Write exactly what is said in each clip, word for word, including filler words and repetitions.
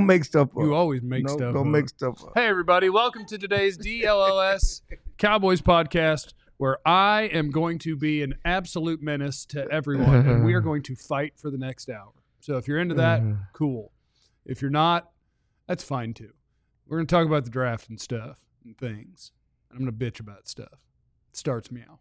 make stuff up. You always make no, stuff don't up. make stuff up. Hey, everybody. Welcome to today's D L L S Cowboys podcast, where I am going to be an absolute menace to everyone, and we are going to fight for the next hour. So if you're into that, cool. If you're not, that's fine too. We're going to talk about the draft and stuff and things. I'm going to bitch about stuff. It starts meow.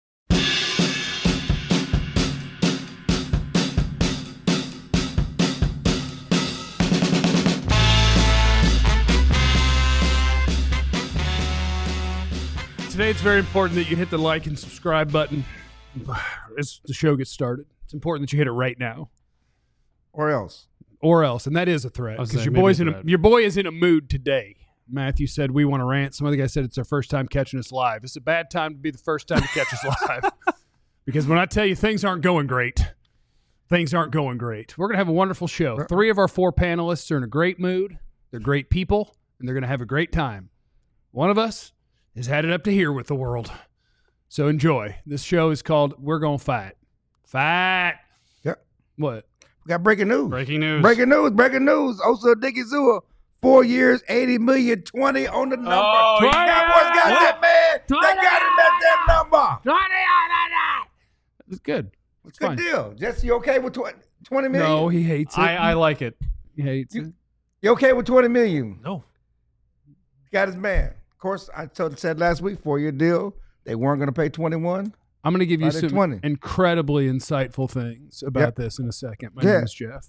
Today it's very important that you hit the like and subscribe button as the show gets started. It's important that you hit it right now. Or else. Or else. And that is a threat. Because your boy's in a, your boy is in a mood today. Matthew said we want to rant. Some other guy said it's our first time catching us live. It's a bad time to be the first time to catch us live. Because when I tell you things aren't going great, things aren't going great. We're going to have a wonderful show. Three of our four panelists are in a great mood. They're great people, and they're going to have a great time. One of us has had it up to here with the world. So enjoy. This show is called We're Gonna Fight. Fight. Yep. What? We got breaking news. Breaking news. Breaking news. Breaking news. Osa Odighizuwa, four years, eighty million, twenty on the number. Oh, twenty. Cowboys got that, man. twenty. They got him at that number. It's good. It's Good fine. deal. Jesse, you okay with twenty, twenty million? No, he hates it. I, I like it. He hates You- it. You okay with twenty million? No. Got his man. Of course, I told said last week, four-year deal. They weren't going to pay twenty-one. I'm going to give you Friday some twenty. incredibly insightful things about Yep. this in a second. My Yeah. name is Jeff.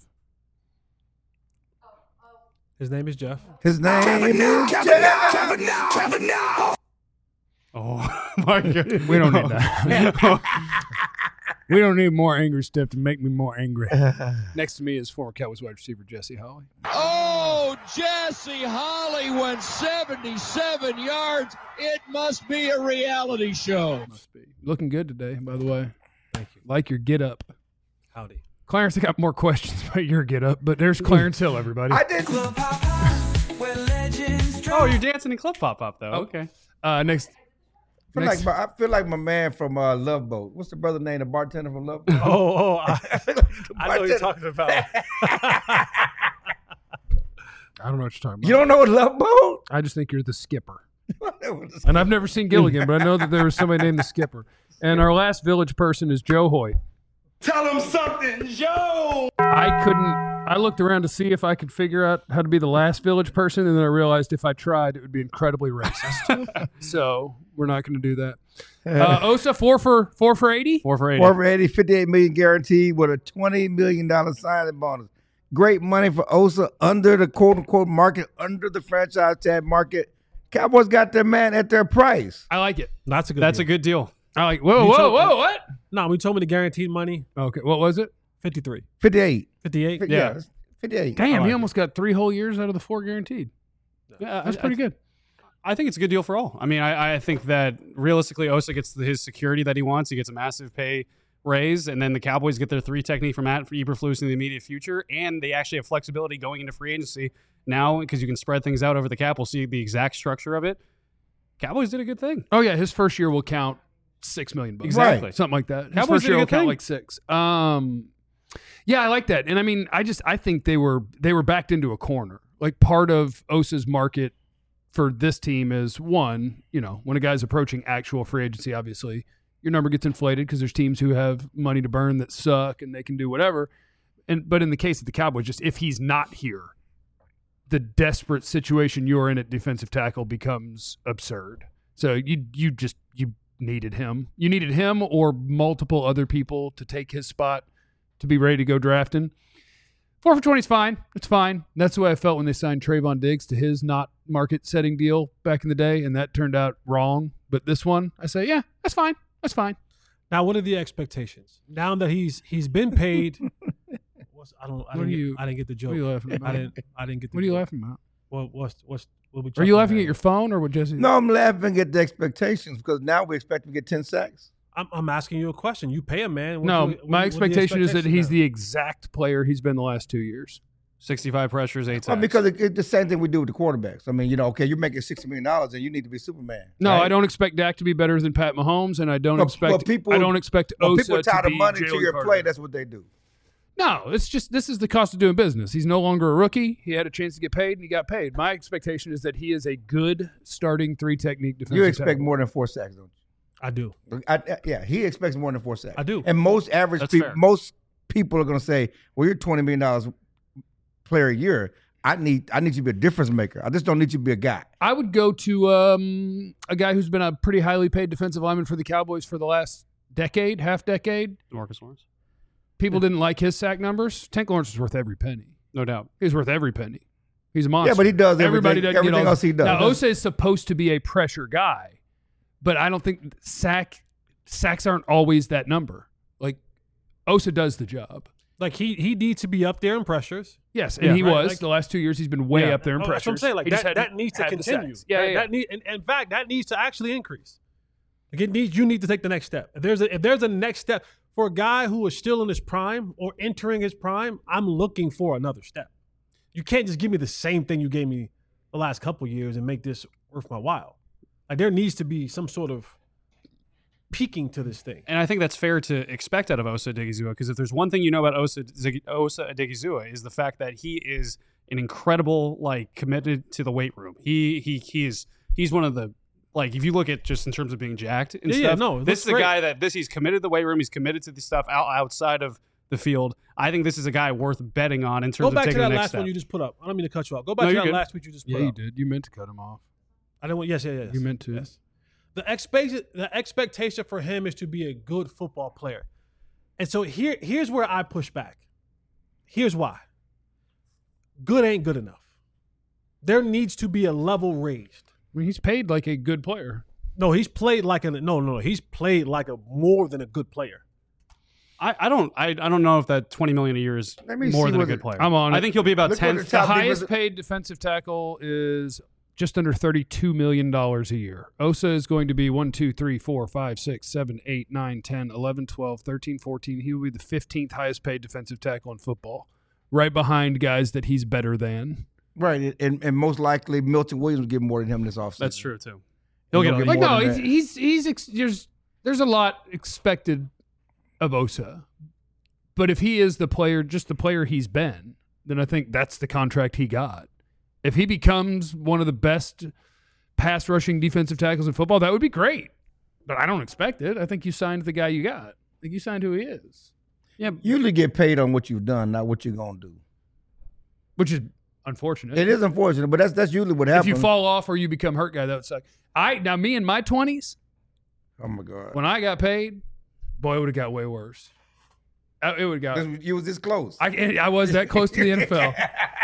His name is Jeff. His name is Jeff. Oh, my God. We don't need that. We don't need more angry stuff to make me more angry. Next to me is former Cowboys wide receiver Jesse Holley. Oh, Jesse Holley went seventy-seven yards. It must be a reality show. Must be looking good today, by the way. Thank you. Like your get up. Howdy. Clarence, I got more questions about your get up, but there's Clarence Hill, everybody. I did. Oh, you're dancing in Club Pop Up, though. Oh. Okay. Uh, next. I feel, next like my, I feel like my man from uh, Love Boat. What's the brother name? The bartender from Love Boat. Oh, oh, I, I feel like the I know what you're bartender. talking about. I don't know what you're talking about. You don't know what Love Boat? I just think you're the skipper. And And I've never seen Gilligan, but I know that there was somebody named the skipper. And our last village person is Joe Hoyt. Tell him something, Joe. I couldn't. I looked around to see if I could figure out how to be the last village person, and then I realized if I tried, it would be incredibly racist. So we're not going to do that. Uh, Osa four for four for eighty. Four for eighty. Four for eighty, fifty-eight million guaranteed with a twenty million dollars signing bonus. Great money for Osa under the quote unquote market, under the franchise tag market. Cowboys got their man at their price. I like it. That's a good That's deal. a good deal. I like. Whoa, You whoa, told- whoa! What? No, we told me the guaranteed money, Okay, what was it? fifty-three. fifty-eight. fifty-eight? Fif- Yeah. yeah, fifty-eight. Damn, like he it. almost got three whole years out of the four guaranteed. Yeah, That's I- pretty I, good. I think it's a good deal for all. I mean, I, I think that realistically, Osa gets the, his security that he wants. He gets a massive pay raise, and then the Cowboys get their three technique from Matt for Eberflus in the immediate future, and they actually have flexibility going into free agency now because you can spread things out over the cap. We'll see the exact structure of it. Cowboys did a good thing. Oh yeah, his first year will count six million bucks. Exactly. Something like that. His Cowboys first did a year will good count thing. like six. Um, yeah, I like that. And I mean, I just I think they were they were backed into a corner. Like part of Osa's market for this team is one, you know, when a guy's approaching actual free agency, obviously your number gets inflated because there's teams who have money to burn that suck and they can do whatever. And but in the case of the Cowboys, just if he's not here, the desperate situation you're in at defensive tackle becomes absurd. So you you just you needed him. You needed him or multiple other people to take his spot to be ready to go drafting. Four for twenty is fine. It's fine. That's the way I felt when they signed Trayvon Diggs to his not market setting deal back in the day, and that turned out wrong. But this one, I say, yeah, that's fine. That's fine. Now, what are the expectations? Now that he's he's been paid, what's, I don't. I What didn't, are get, you- I didn't get the joke. What are you laughing about? I didn't. I didn't get. The What are you joke. laughing about? What, what's what's what we? Are you chuckling laughing at your phone or what, Jesse? No, I'm laughing at the expectations because now we expect him to get ten sacks. I'm, I'm asking you a question. You pay a man. What No, do you- what my do you- what are the expectation is that expectations he's now? the exact player he's been the last two years. sixty-five pressures, eight Well, sacks. because it, it's the same thing we do with the quarterbacks. I mean, you know, okay, you're making sixty million dollars and you need to be Superman. No, right? I don't expect Dak to be better than Pat Mahomes, and I don't Well, expect well, people- I don't expect Well, Osa people tie to the be money Jalen to your Carter. play. That's what they do. No, it's just this is the cost of doing business. He's no longer a rookie. He had a chance to get paid, and he got paid. My expectation is that he is a good starting three technique defensive You expect tackle. more than four sacks, don't I do. you? I, I, yeah, he expects more than four sacks. I do. And most average That's people, fair. most people are going to say, "Well, you're twenty million dollars player a year. I need, I need you to be a difference maker. I just don't need you to be a guy." I would go to um, a guy who's been a pretty highly paid defensive lineman for the Cowboys for the last decade, half decade. Marcus Lawrence. People didn't like his sack numbers. Tank Lawrence was worth every penny. No doubt. He's worth every penny. He's a monster. Yeah, but he does Everybody everything, doesn't everything get all, else he does. Now, Osa is supposed to be a pressure guy, but I don't think sack sacks aren't always that number. Like, Osa does the job. Like he he needs to be up there in pressures. Yes, and Yeah, he right, was. like- the last two years, he's been way Yeah. up there in Oh, pressures. that's what I'm saying. Like He just that, hadn't that needs to had the continue. sacks. Yeah, Right? yeah, yeah. That need, and, and in fact, that needs to actually increase. Like it needs, you need to take the next step. If there's a if there's a next step for a guy who is still in his prime or entering his prime, I'm looking for another step. You can't just give me the same thing you gave me the last couple years and make this worth my while. Like there needs to be some sort of peaking to this thing. And I think that's fair to expect out of Osa Odigizua, because if there's one thing you know about Osa, Zig- Osa Odigizua is the fact that he is an incredible, like, committed to the weight room. He he he is he's one of the, like, if you look at just in terms of being jacked and Yeah, yeah, stuff, no, it this looks is a great. guy that this he's committed to the weight room. He's committed to the stuff out, outside of the field. I think this is a guy worth betting on in terms Go of back to taking that the next last step. one you just put up. I don't mean to cut you off. Go back No, to you're that good. last tweet you just put Yeah, you up. did. You meant to cut him off. I don't want. Yes, yes, yes. You meant to. Yes. The expectation, the expectation for him is to be a good football player, and so here, here's where I push back. Here's why. Good ain't good enough. There needs to be a level raised. I mean, he's paid like a good player. No, he's played like a no, no, no. He's played like a more than a good player. I, I don't I, I don't know if that twenty million a year is Let me more see than a what good it- player. I'm on I it. think he'll be about Look what ten. the The top highest defensive- paid defensive tackle is just under thirty-two million dollars a year. Osa is going to be one, two, three, four, five, six, seven, eight, nine, ten, eleven, twelve, thirteen, fourteen. He will be the fifteenth highest paid defensive tackle in football, right behind guys that he's better than. Right, and, and most likely Milton Williams will get more than him this offseason. That's true too. He'll He'll get, get like, Like more no, than he's that. he's, he's ex- there's there's a lot expected of Osa, but if he is the player, just the player he's been, then I think that's the contract he got. If he becomes one of the best pass rushing defensive tackles in football, that would be great. But I don't expect it. I think you signed the guy you got. I think you signed who he is. yeah, You usually get paid on what you've done, not what you're gonna do. Which is unfortunate. It is unfortunate, but that's that's usually what if happens. you fall off or you become hurt guy, that would suck. I now me in my twenties, oh my God, when I got paid, boy, it would have got way worse. Uh, It would have got. This- you was this close. I, I was that close to the N F L.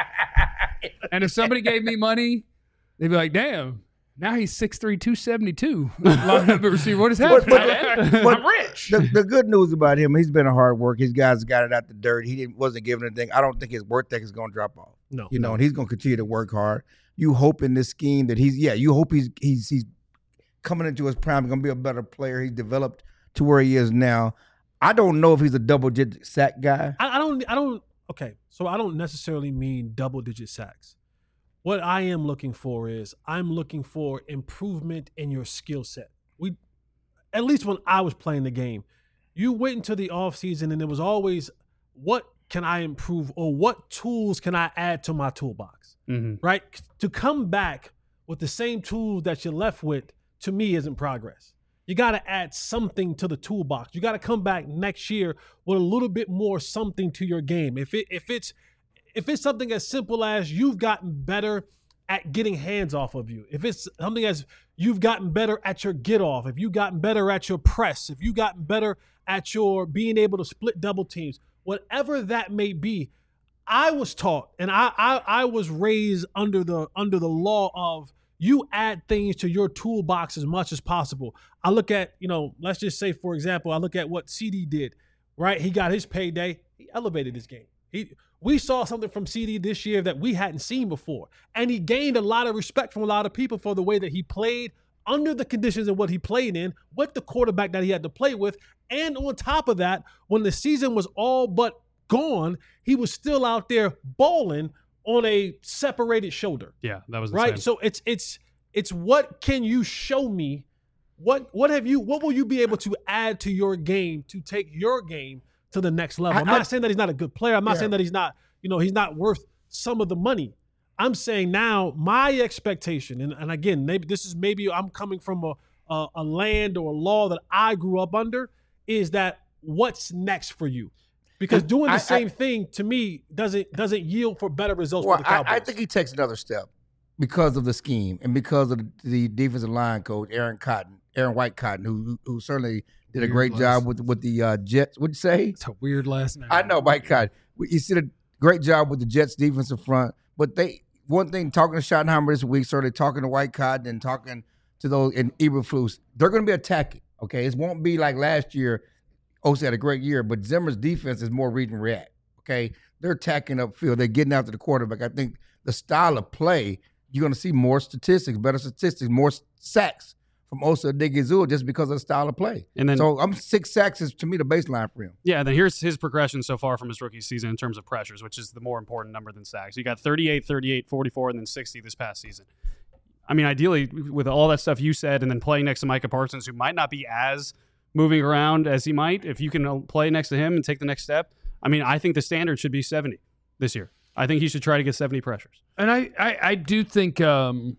And if somebody gave me money, they'd be like, damn, now he's six three, two seventy-two. Line up at receiver. What is But- happening? but- but I'm rich. the, the good news about him, he's been a hard work. His guys got it out the dirt. He didn't wasn't giving anything. I don't think his work ethic is going to drop off. No, You know, and he's going to continue to work hard. You hope in this scheme that he's yeah. You hope he's he's he's coming into his prime, going to be a better player. He's developed to where he is now. I don't know if he's a double digit sack guy. I, I don't. I don't. Okay, so I don't necessarily mean double digit sacks. What I am looking for is I'm looking for improvement in your skill set. We, at least when I was playing the game, you went into the offseason and it was always, what can I improve or what tools can I add to my toolbox, mhm. right? To come back with the same tools that you left with, to me, isn't progress. You got to add something to the toolbox. You got to come back next year with a little bit more something to your game. If it if it's if it's something as simple as you've gotten better at getting hands off of you, if it's something as you've gotten better at your get off, if you've gotten better at your press, if you've gotten better at your being able to split double teams, whatever that may be, I was taught and I I, I was raised under the under the law of you add things to your toolbox as much as possible. I look at, you know, let's just say, for example, I look at what C D did, right? He got his payday. He elevated his game. He, we saw something from C D this year that we hadn't seen before. And he gained a lot of respect from a lot of people for the way that he played under the conditions of what he played in, with the quarterback that he had to play with. And on top of that, when the season was all but gone, he was still out there balling on a separated shoulder. Yeah, that was Right. insane. So it's it's it's what can you show me? What what have you what will you be able to add to your game to take your game to the next level. I- I'm not I- saying that he's not a good player. I'm not Yeah. saying that he's not, you know, he's not worth some of the money. I'm saying now my expectation, and, and again, maybe this is maybe I'm coming from a, a a land or a law that I grew up under, is that what's next for you? Because doing the I- same I- thing to me doesn't doesn't yield for better results Well, for the Cowboys. I, I think he takes another step because of the scheme and because of the, the defensive line coach, Aaron Cotton, Aaron White Cotton, who who certainly did a Weird great last job with with the uh, Jets. What'd you say? It's a weird last name. I know, Mike Cotton. You did a great job with the Jets defensive front, but they one thing talking to Schottenheimer this week, certainly talking to White Cotton and talking to those in Eberflus, they're going to be attacking. Okay, it won't be like last year. Osa had a great year, but Zimmer's defense is more read and react. Okay, they're attacking upfield. They're getting after the quarterback. I think the style of play, you're going to see more statistics, better statistics, more sacks from Osa Odighizuwa just because of the style of play. And then- so I'm six sacks is to me the baseline for him. Yeah, then here's his progression so far from his rookie season in terms of pressures, which is the more important number than sacks. You got thirty-eight, thirty-eight, forty-four, and then sixty this past season. I mean, ideally, with all that stuff you said, and then playing next to Micah Parsons, who might not be as moving around as he might, if you can play next to him and take the next step, I mean, I think the standard should be seventy this year. I think he should try to get seventy pressures. And I, I, I do think um,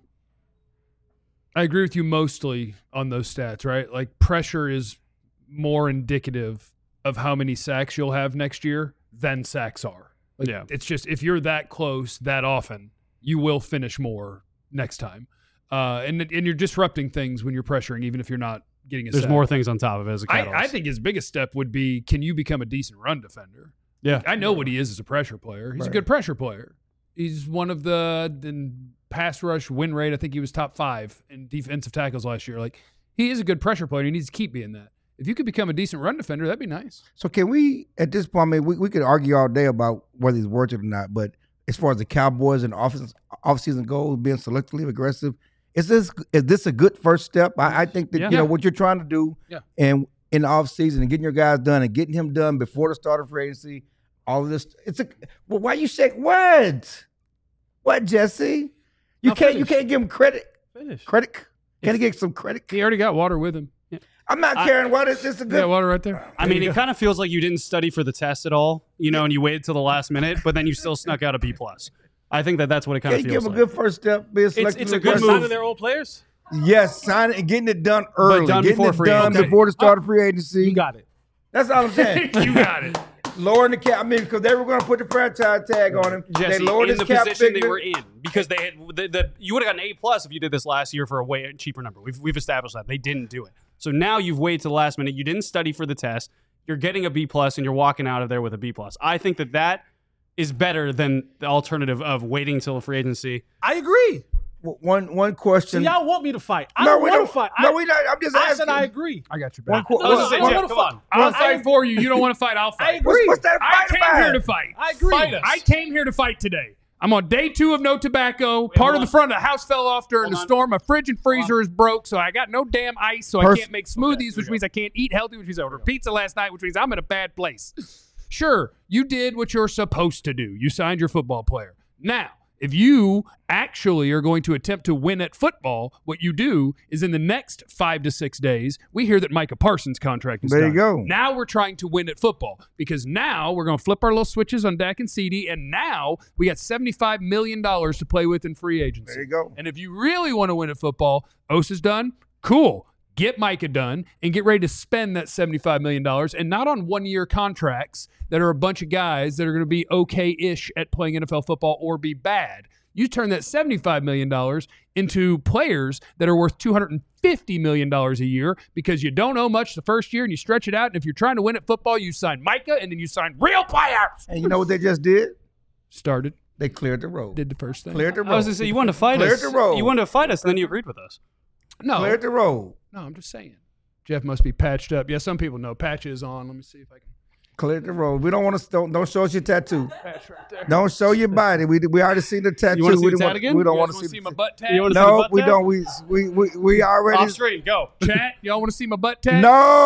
I agree with you mostly on those stats, right? Like pressure is more indicative of how many sacks you'll have next year than sacks are. Like, Yeah. It's just if you're that close that often, you will finish more next time. Uh, and and you're disrupting things when you're pressuring, even if you're not getting a There's sack. more things on top of it as a I, catalyst. I think his biggest step would be, can you become a decent run defender? Yeah. I know what he is as a pressure player. He's a Right. good pressure player. He's one of the in pass rush win rate. I think he was top five in defensive tackles last year. Like, he is a good pressure player. He needs to keep being that. If you could become a decent run defender, that'd be nice. So can we, at this point, I mean, we, we could argue all day about whether he's worth it or not, but as far as the Cowboys and off offseason goals, being selectively aggressive, is this is this a good first step? I, I think that, Yeah. you know, what you're trying to do Yeah. and in the offseason and getting your guys done and getting him done before the start of free agency, all of this, it's a, well, why you shake what? What, Jesse? You Now can't you finish. can't give him credit. Finish. Credit? Can he get some credit? He already got water with him. I'm not I- caring what is this a Yeah, good water right there. I mean, it kind of feels like you didn't study for the test at all, you know, and you waited till the last minute, but then you still snuck out a B plus. I think that that's what it kind Can of you feels give him like. a good first step? Be a it's a selectively good aggressive? move. Signing their own players? Yes, sign it and getting it done early. done getting before it free done agency. before the start of free agency. You got it. That's all I'm saying. You got it. Lowering the cap. I mean, because they were going to put the franchise tag on him. Jesse, they lowered in his the cap position figure. they were in, because they had the, the you would have gotten an A plus if you did this last year for a way cheaper number. We've we've established that they didn't do it. So now you've waited to the last minute. You didn't study for the test. You're getting a B plus, and you're walking out of there with a B plus. I think that that is better than the alternative of waiting till free agency. I agree. W- One one So question. y'all want me to fight. I no, don't we want don't to fight. No, I, we not. I'm just I asking. said I agree. I got your One back. qu- I was gonna say, one- Jeff, one- come on. I'll I- fight for you. You don't want to fight, I'll I fight. agree. What's, what's that I fight came about? here to fight. I agree. Fight us. I came here to fight today. I'm on day two of no tobacco. Part of hold the front of the house fell off during Hold the on. storm. My fridge and freezer is broke, so I got no damn ice, so I Pers- can't make smoothies, here which we means I can't eat healthy, which means I ordered pizza last night, which means I'm in a bad place. Sure, you did what you're supposed to do. You signed your football player. Now, if you actually are going to attempt to win at football, what you do is in the next five to six days, we hear that Micah Parsons' contract is There you done. go. Now we're trying to win at football because now we're going to flip our little switches on Dak and C D, and now we got seventy-five million dollars to play with in free agency. There you go. And if you really want to win at football, Osa's done. Cool. Get Micah done and get ready to spend that seventy-five million dollars, and not on one-year contracts that are a bunch of guys that are going to be okay-ish at playing N F L football or be bad. You turn that seventy-five million dollars into players that are worth two hundred fifty million dollars a year because you don't owe much the first year and you stretch it out. And if you're trying to win at football, you sign Micah and then you sign real players. And you know what they just did? Started, They cleared the road. did the first thing. Cleared the road. I was going to say, you wanted to fight Cleared us. the road. You wanted to fight us, and then you agreed with us. No, Cleared the road. no, I'm just saying. Jeff must be patched up. Yeah, some people know patch is on. Let me see if I can Cleared the road. We don't want to. Don't, don't show us your tattoo. patch right there. Don't show your body. We we already seen the tattoo. You wanna see we the don't tat want- again? We don't You want guys to wanna see. see the- my butt tat? You wanna see the No, butt we tat? don't. We we we, we already. Off screen, go. Chat, y'all want to see my butt tat?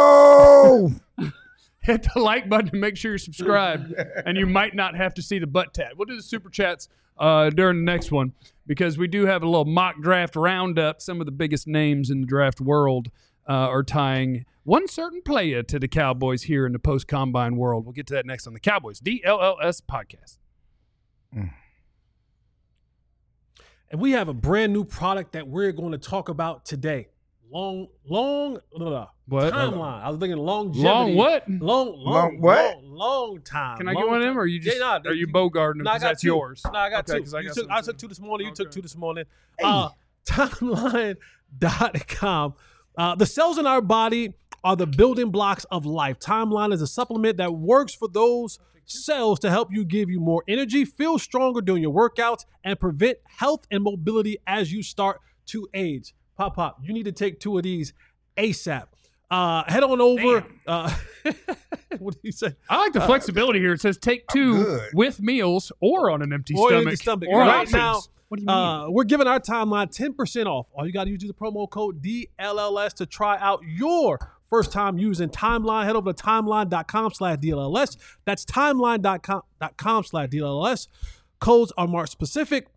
No. Hit the like button and make sure you're subscribed, and you might not have to see the butt tat. We'll do the super chats uh, during the next one because we do have a little mock draft roundup. Some of the biggest names in the draft world uh, are tying one certain player to the Cowboys here in the post-combine world. We'll get to that next on the Cowboys D L L S podcast. Mm. And we have a brand new product that we're going to talk about today. Long, long, blah, blah, What? timeline. I was thinking longevity. Long what? Long, long, Long what? Long, long time. Can I long get one of time. them, or are you just Yeah, nah, are you you- boguarding them No, I because got that's two. yours? No, I got Okay, two. 'cause I You got took, some I too. took two this morning. You took Okay. two this morning. Uh, timeline dot com. Uh, the cells in our body are the building blocks of life. Timeline is a supplement that works for those cells to help you give you more energy, feel stronger during your workouts, and prevent health and mobility as you start to age. Pop, pop, you need to take two of these ASAP. Uh, head on over. Uh, what did he say? I like the flexibility here. It says take two good. with meals or on an empty Or stomach. empty stomach. Or Right options. now, What do you mean? Uh, we're giving our timeline ten percent off. All you got to use is the promo code D L L S to try out your first time using Timeline. Head over to timeline.com slash DLLS. That's timeline.com slash DLLS. Codes are marked specific.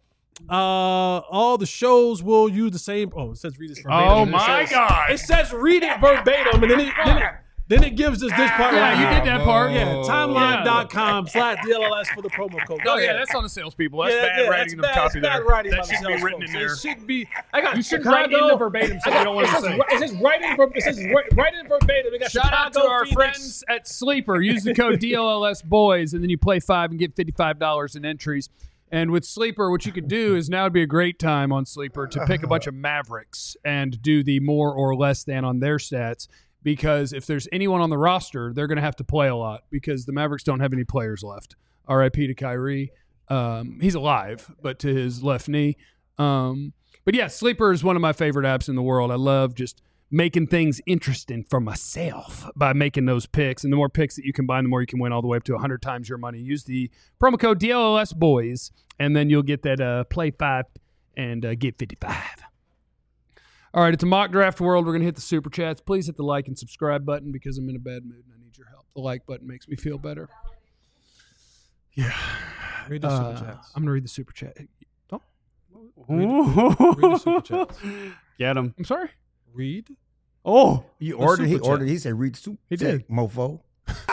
Uh, all the shows will use the same. Oh, it says read this verbatim. Oh, It my says- God. It says read it verbatim, and then it, then it, then it gives us this part Yeah, right you here. did that part. Yeah, timeline.com slash DLLS for the promo code. Go Oh, yeah, ahead. that's on the salespeople. That's Yeah, bad yeah, writing that's of bad, copy it's bad there. writing That by the should be sales written in folks. there. It should be. I got You should Chicago. write in the verbatim so you don't want it to says, say. It says right in, ver- it says right, right in verbatim. We got Shout out to Chicago, our Phoenix. friends at Sleeper. Use the code D L L S boys, and then you play five and get fifty-five dollars in entries. And with Sleeper, what you could do is now would be a great time on Sleeper to pick a bunch of Mavericks and do the more or less than on their stats. Because if there's anyone on the roster, they're going to have to play a lot because the Mavericks don't have any players left. R I P to Kyrie. Um, he's alive, but to his left knee. Um, but yeah, Sleeper is one of my favorite apps in the world. I love just making things interesting for myself by making those picks. And the more picks that you combine, the more you can win all the way up to one hundred times your money. Use the promo code D L L S boys, and then you'll get that uh, play five and uh, get fifty-five. All right, it's a mock draft world. We're going to hit the super chats. Please hit the like and subscribe button because I'm in a bad mood and I need your help. The like button makes me feel better. Yeah. Read the Uh, super chats. I'm going to read the super chat. Oh, Read the super chats. Get him. I'm sorry. Read. Oh, You ordered. He super chat. ordered. He said, "Read soup." He did. mofo.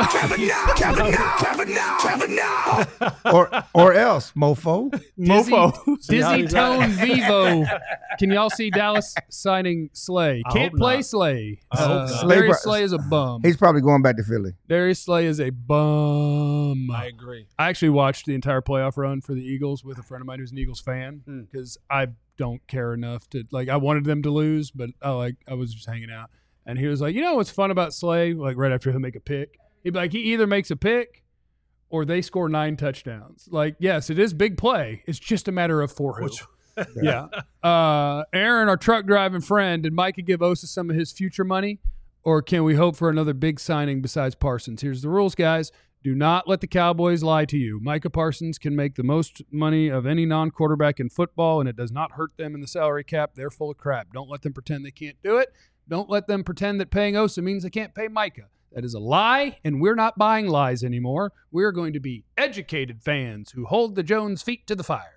or or else, mofo. Dizzy, Mofo. Dizzy Tone Vivo. Can y'all see Dallas signing Slay? I Can't hope play not. Slay. I hope Uh, not. Slay Darius bro- Slay is a bum. He's probably going back to Philly. Darius Slay is a bum. I agree. I actually watched the entire playoff run for the Eagles with a friend of mine who's an Eagles fan because I don't care enough to like. I wanted them to lose, but I like I was just hanging out, and he was like, "You know what's fun about Slay? Like right after he'll make a pick, he'd be like, he either makes a pick or they score nine touchdowns. Like, yes, it is big play. It's just a matter of for who." Yeah. Uh, Aaron, our truck driving friend, did Micah give Osa some of his future money, or can we hope for another big signing besides Parsons? Here's the rules, guys. Do not let the Cowboys lie to you. Micah Parsons can make the most money of any non-quarterback in football, and it does not hurt them in the salary cap. They're full of crap. Don't let them pretend they can't do it. Don't let them pretend that paying Osa means they can't pay Micah. That is a lie, and we're not buying lies anymore. We're going to be educated fans who hold the Jones feet to the fire.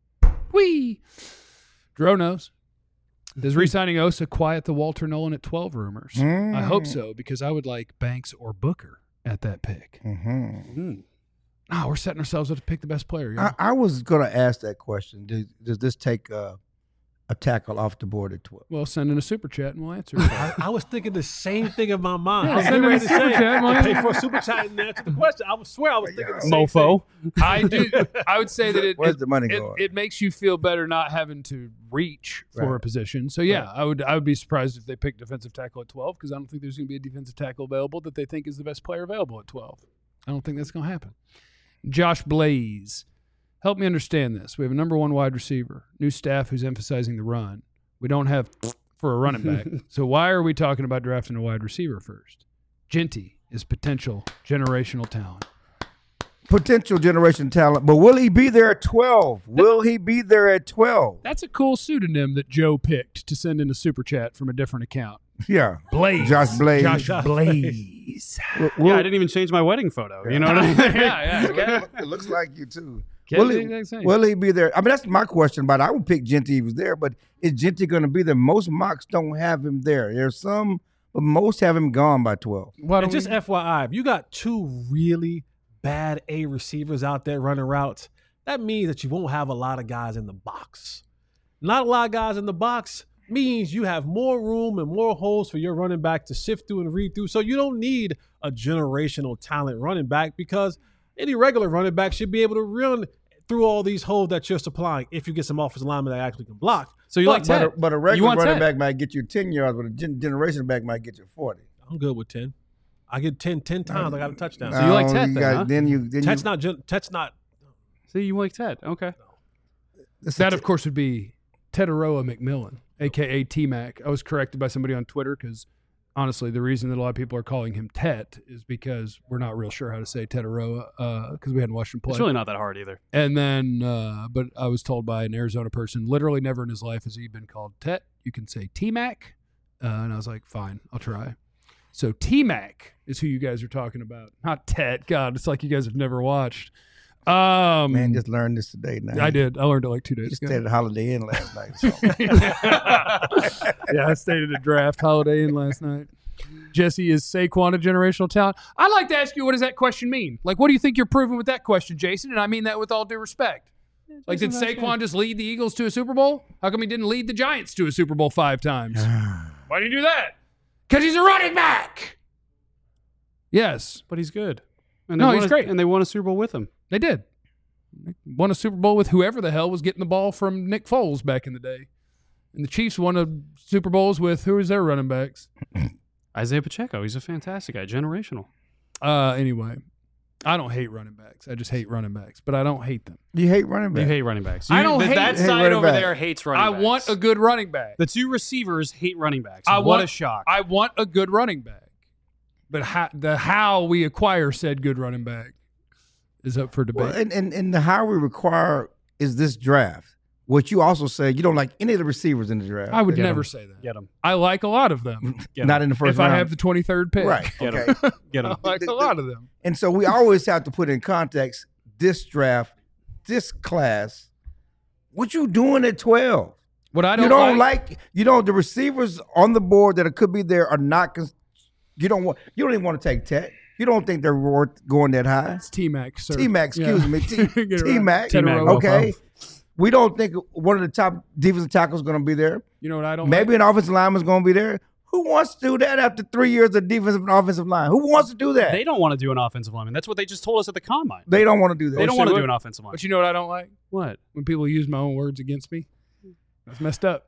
Whee! Dro knows. Does re-signing Osa quiet the Walter Nolan at twelve rumors? Mm. I hope so, because I would like Banks or Booker at that pick. Mm-hmm. No, we're setting ourselves up to pick the best player. I, I was going to ask that question. Does, does this take uh, a tackle off the board at twelve? Well, send in a super chat and we'll answer. I, I was thinking the same thing in my mind. Yeah, I was send getting in a ready to super say, chat, man. pay for a super chat and answer the question. I would swear I was thinking the same Mofo. I do. I would say that it Where's it, the money it, going? it makes you feel better not having to reach for a Right. position. So yeah, Right. I would I would be surprised if they picked defensive tackle at twelve because I don't think there's going to be a defensive tackle available that they think is the best player available at twelve. I don't think that's going to happen. Josh Blaze, help me understand this. We have a number one wide receiver, new staff who's emphasizing the run. We don't have for a running back. So why are we talking about drafting a wide receiver first? Genty is potential generational talent. Potential generation talent, but will he be there at twelve? Will he be there at twelve? That's a cool pseudonym that Joe picked to send in a super chat from a different account. Yeah. Blaze. Josh Blaze. Josh Blaze. Will- Yeah, I didn't even change my wedding photo. You know what I mean? yeah, yeah. It looks like you too. Can't Will do he, the exact same. will he be there? I mean, that's my question about it. I would pick Genty if he was there, but is Genty going to be there? Most mocks don't have him there. There's some, but most have him gone by twelve. Why And don't just we- F Y I, if you got two really bad A receivers out there running routes, that means that you won't have a lot of guys in the box. Not a lot of guys in the box means you have more room and more holes for your running back to sift through and read through. So you don't need a generational talent running back because any regular running back should be able to run through all these holes that you're supplying if you get some offensive linemen that actually can block. So you But- like But Ted? a, but a You regular want running Ted? back might get you ten yards, but a gen- generation back might get you forty. I'm good with ten. I get ten, ten times. I got a touchdown. So you like No, Ted then, got- huh? Then you then Ted's you, not. gen- Ted's not. See, you like Ted. Okay. That, of course, would be Teteroa McMillan, a k a. T-Mac. I was corrected by somebody on Twitter because, honestly, the reason that a lot of people are calling him Tet is because we're not real sure how to say Teteroa because we hadn't watched him play. It's really not that hard either. And then, uh, but I was told by an Arizona person, literally never in his life has he been called Tet. You can say T-Mac. Uh, and I was like, fine, I'll try. So T-Mac is who you guys are talking about. Not Tet. God, it's like you guys have never watched. Um, man just learned this today. Now I did. I learned it like two You days stayed ago. at Holiday Inn last night. So. Yeah, I stayed at a draft Holiday Inn last night. Jesse, is Saquon a generational talent? I'd like to ask you, what does that question mean? Like, what do you think you're proving with that question, Jason? And I mean that with all due respect. Like, did Saquon just lead the Eagles to a Super Bowl? How come he didn't lead the Giants to a Super Bowl five times? Why do you do that? Because he's a running back. Yes, But he's good. And No, they he's won a- great. And they won a Super Bowl with him. they did. They won a Super Bowl with whoever the hell was getting the ball from Nick Foles back in the day. And the Chiefs won a Super Bowls with who was their running backs? Isaiah Pacheco. He's a fantastic guy. Generational. Uh, anyway, I don't hate running backs. I just hate running backs, but I don't hate them. You hate running back. You hate running backs. I You- don't th- hate- that hate side running over back. there hates running I backs. want a good running back. The two receivers hate running backs. I what want a shock. I want a good running back. But how, the how we acquire said good running back is up for debate. Well, and, and, and the how we require is this draft. What you also say, you don't like any of the receivers in the draft. I would Get never 'em. say that. Get him. I like a lot of them. Get Not him. in the first if round. I have the twenty-third pick. Right. Get 'em. Okay. Get I him. like a lot of them. And so we always have to put in context this draft, this class. What you doing at twelve? What I don't, You don't like, like, you know, the receivers on the board that could be there are not. Cons- you don't want. You don't even want to take Tet. You don't think they're worth going that high. it's T-Mac, sir. T-Mac, excuse Yeah. me, T- Get it right. T-Mac. T-Mac. Okay. We don't think one of the top defensive tackles is going to be there. You know what I don't Maybe like? an offensive lineman is going to be there. Who wants to do that after three years of defensive and offensive line? Who wants to do that? They don't want to do an offensive lineman. That's what they just told us at the combine. They don't want to do that. They don't say want to what? do an offensive lineman. But you know what I don't like? What? When people use my own words against me. That's messed up.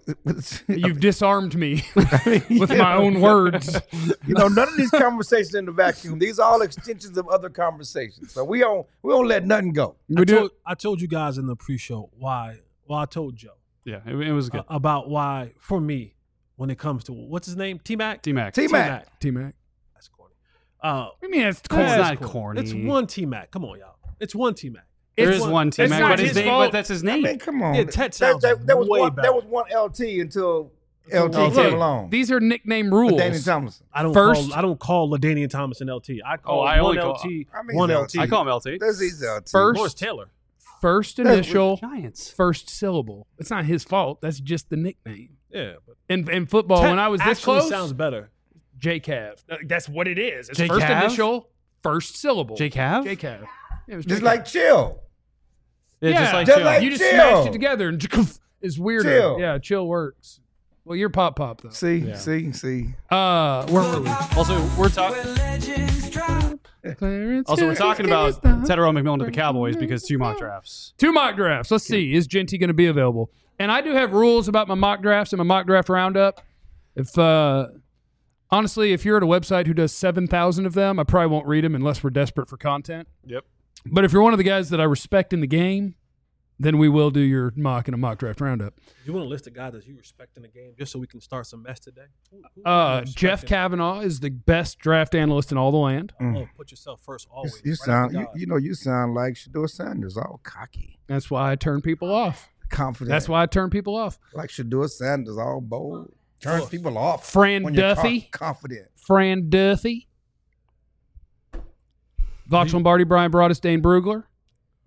You've disarmed me with my own words. You know, none of these conversations in the vacuum. These are all extensions of other conversations. So we don't we don't let nothing go. We I, do told, I told you guys in the pre-show why. Well, I told Joe Yeah, it, it was good. uh, about why for me when it comes to what's his name, T Mac. T Mac. T-Mac. T-Mac. That's corny. Uh, What do you mean it's It's corny? not corny. It's one T Mac. Come on, y'all. It's one T Mac. There It's is one- one T it's Mac, not but his his name. fault. But that's his I name. mean, come on. Yeah, Tet That- sounds that, that was way one better. that was one L T until L T Oh, came look, along. These are nickname rules. Danny Thompson. I don't First- call I don't call LaDainian Thomas an L T. I call Oh, I one only call- L T, I mean, one he's L L T. T. I call him L T. That's his L T. First- Morris Taylor. First That's- initial, Giants. first syllable. It's not his fault. That's just the nickname. Yeah, but In in football, Tet when I was this actually close, sounds better. J Cav. Uh, That's what it is. It's J first Cav? initial, first syllable. J Cav? J Cav. Yeah, it was Just J like chill. Yeah, Yeah, just like just Joe. like- you just chill. smashed it together and it's weirder. Chill. Yeah, chill works. Well, you're pop pop though. See, Yeah. see, see. Uh, where were we? Also, we're talking. Also, we're talking about Teteroa McMillan to the Cowboys because two mock drafts. Two mock drafts. Let's see. Is Genty going to be available? And I do have rules about my mock drafts and my mock draft roundup. If uh, honestly, if you're at a website who does seven thousand of them, I probably won't read them unless we're desperate for content. Yep. But if you're one of the guys that I respect in the game, then we will do your mock and a mock draft roundup. You want to list the guys that you respect in the game just so we can start some mess today? Who- who Uh, you Jeff respecting? Kavanaugh is the best draft analyst in all the land. Oh, put yourself first You, always. you Right sound, after you, God. you know, you sound like Shador Sanders, all cocky, That's why I turn people off. confident. That's why I turn people off. like Shador Sanders, all bold, turns Oh. people off. Fran when you're Duffy. co- confident. Fran Duffy. Vox Lombardi, Brian Broaddus, Dane Brugler.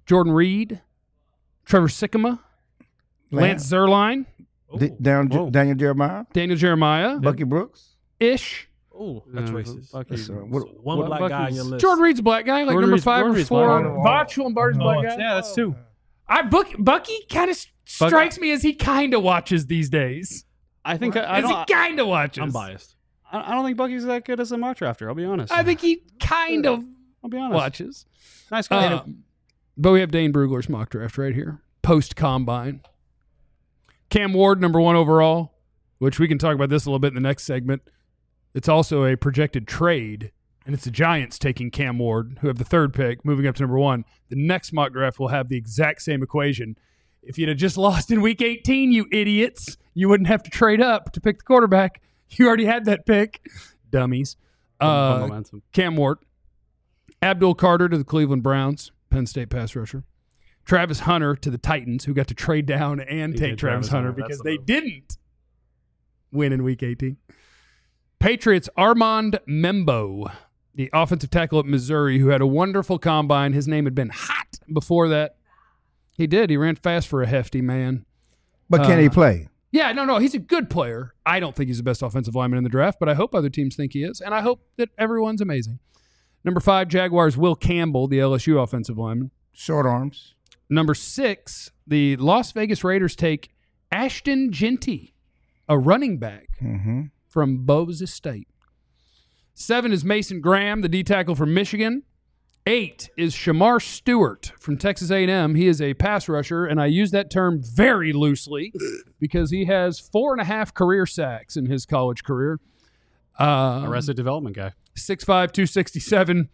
Jordan Reed, Trevor Sikkema, Lance Zierlein, D- Daniel, Whoa. Daniel Jeremiah, Daniel Jeremiah, Bucky Brooks. Ish. Oh, that's Uh, racist. Bucky- That's, uh, what- So one what- black Bucky's- guy on your list. Jordan Reed's a black guy, like Jordan number Reed's- five Jordan or Reed's four. black. Botch Lombardi's a black guy. Yeah, that's two. I Buck, Bucky kind of strikes me as he kind of watches these days. I think I, I As he don't. kind of watches. I'm biased. I I don't think Bucky's that good as a mock drafter. I'll be honest. I think he kind of I'll be honest. watches. Nice guy. Um, but we have Dane Brugler's mock draft right here, post combine. Cam Ward, number one overall, which we can talk about this a little bit in the next segment. It's also a projected trade, and it's the Giants taking Cam Ward, who have the third pick, moving up to number one. The next mock draft will have the exact same equation. If you'd have just lost in week eighteen, you idiots, you wouldn't have to trade up to pick the quarterback. You already had that pick. Dummies. Fun Uh, momentum. Cam Ward. Abdul Carter to the Cleveland Browns, Penn State pass rusher. Travis Hunter to the Titans, who got to trade down and He take did Travis, Travis Hunter Hunter. because That's the they move. didn't win in week eighteen. Patriots, Armand Membo, the offensive tackle at Missouri, who had a wonderful combine. His name had been hot before that. He did. He ran fast for a hefty man. But can he Uh, play? Yeah, no, no, he's a good player. I don't think he's the best offensive lineman in the draft, but I hope other teams think he is, and I hope that everyone's amazing. Number five, Jaguars, Will Campbell, the L S U offensive lineman. Short arms. Number six, the Las Vegas Raiders take Ashton Genty, a running back Mm-hmm. from Boise State. Seven is Mason Graham, the D tackle from Michigan. Eight is Shamar Stewart from Texas A and M. He is a pass rusher, and I use that term very loosely because he has four and a half career sacks in his college career. Uh, Arrested Development guy. six five, two sixty-seven,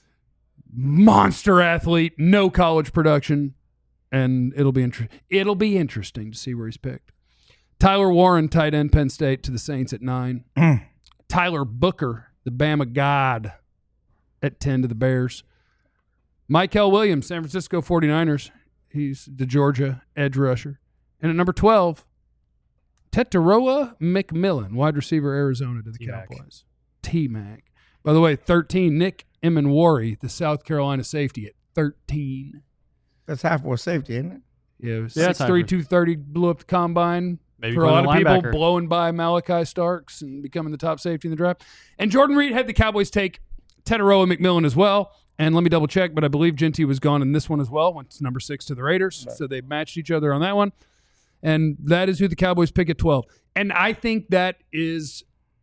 monster athlete, no college production, and it'll be inter- it'll be interesting to see where he's picked. Tyler Warren, tight end, Penn State, to the Saints at nine. Mm. Tyler Booker, the Bama God, at ten to the Bears. Michael Williams, San Francisco forty-niners. He's the Georgia edge rusher. And at number twelve, Tetaroa McMillan, wide receiver, Arizona, to the T-Mac. Cowboys. T-Mac. By the way, thirteen, Nick Emanwari, the South Carolina safety, at thirteen. That's half for safety, isn't it? Yeah, Yeah, six it's three, hybrid. two thirty, blew up the combine. Maybe For a playing lot of a people, linebacker. blowing by Malachi Starks and becoming the top safety in the draft. And Jordan Reed had the Cowboys take Tetaroa McMillan as well. And let me double check, but I believe Genty was gone in this one as well. Went to number six to the Raiders. Right. So they matched each other on that one. And that is who the Cowboys pick at twelve. And I think that is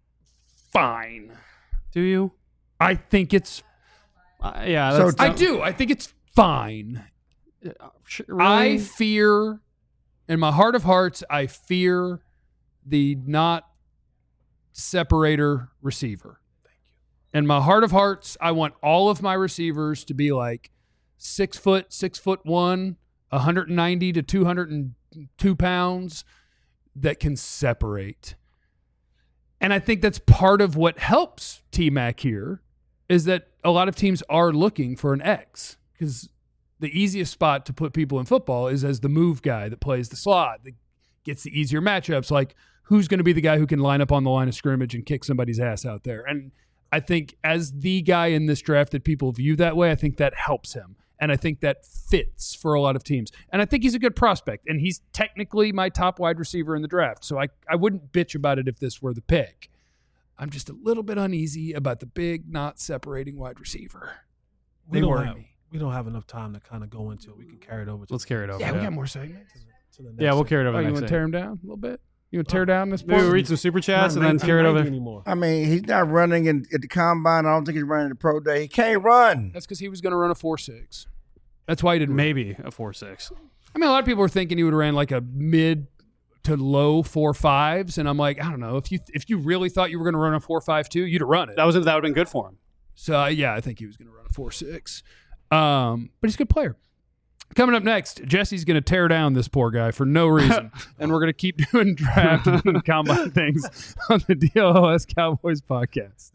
fine. Do you? I think it's, Uh, yeah. So That's, t- I do. I think it's fine. uh, sh- I really? fear, in my heart of hearts, I fear the not separator receiver. In my heart of hearts, I want all of my receivers to be like six foot, six foot one, one hundred ninety to two hundred two pounds that can separate. And I think that's part of what helps T-Mac here is that a lot of teams are looking for an X because the easiest spot to put people in football is as the move guy that plays the slot, that gets the easier matchups. Like, who's going to be the guy who can line up on the line of scrimmage and kick somebody's ass out there? And I think as the guy in this draft that people view that way, I think that helps him. And I think that fits for a lot of teams. And I think he's a good prospect. And he's technically my top wide receiver in the draft. So I, I wouldn't bitch about it if this were the pick. I'm just a little bit uneasy about the big, not separating wide receiver. We They don't worry have, me. we don't have enough time to kind of go into it. We can carry it over to, Let's carry it over. Yeah, we got more segments. to the next Yeah, we'll segment. carry it over. Oh, you next want to day. tear him down a little bit? You want to tear down this Maybe we'll part? read some super chats Not and then carry it over. nineteen ninety anymore. I mean, he's not running in, at the combine. I don't think he's running the pro day. He can't run. That's because he was going to run a four six. That's why he didn't. run. Maybe a four six. I mean, a lot of people were thinking he would have ran like a mid to low four fives, and I'm like, I don't know. If you if you really thought you were going to run a four five two, you'd have run it. That was that would have been good for him. So uh, yeah, I think he was going to run a four six. Um, but he's a good player. Coming up next, Jesse's going to tear down this poor guy for no reason, and we're going to keep doing draft and combine things on the D L O S Cowboys podcast.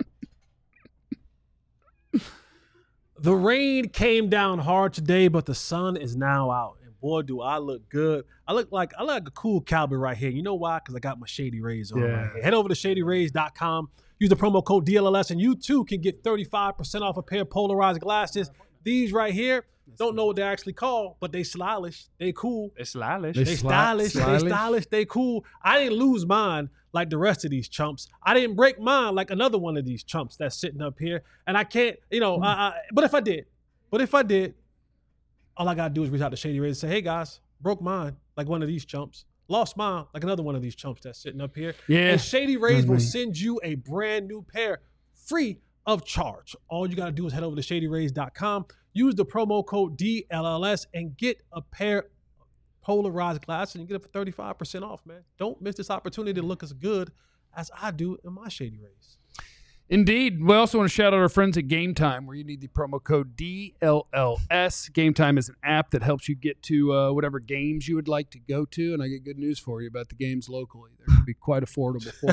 The rain came down hard today, but the sun is now out. And boy, do I look good. I look like I look like a cool cowboy right here. You know why? Because I got my Shady Rays on Yeah. right here. Head over to shady rays dot com. Use the promo code D L L S, and you too can get thirty-five percent off a pair of polarized glasses. These right here, Don't know what they actually call, but they stylish. They cool. It's stylish. They They sli- stylish. They stylish. stylish. They cool. I didn't lose mine like the rest of these chumps. I didn't break mine like another one of these chumps that's sitting up here. And I can't, you know, I, I, but if I did, but if I did, all I got to do is reach out to Shady Rays and say, hey, guys, broke mine like one of these chumps. Lost mine like another one of these chumps that's sitting up here. Yeah. And Shady Rays will Mhm. send you a brand new pair free of charge. All you got to do is head over to shady rays dot com, use the promo code D L L S, and get a pair of polarized glasses, and you get it for thirty-five percent off, man. Don't miss this opportunity to look as good as I do in my Shady Rays. Indeed. We also want to shout out our friends at Game Time, where you need the promo code D L L S. Game Time is an app that helps you get to uh, whatever games you would like to go to, and I get good news for you about the games locally. They're going to be quite affordable for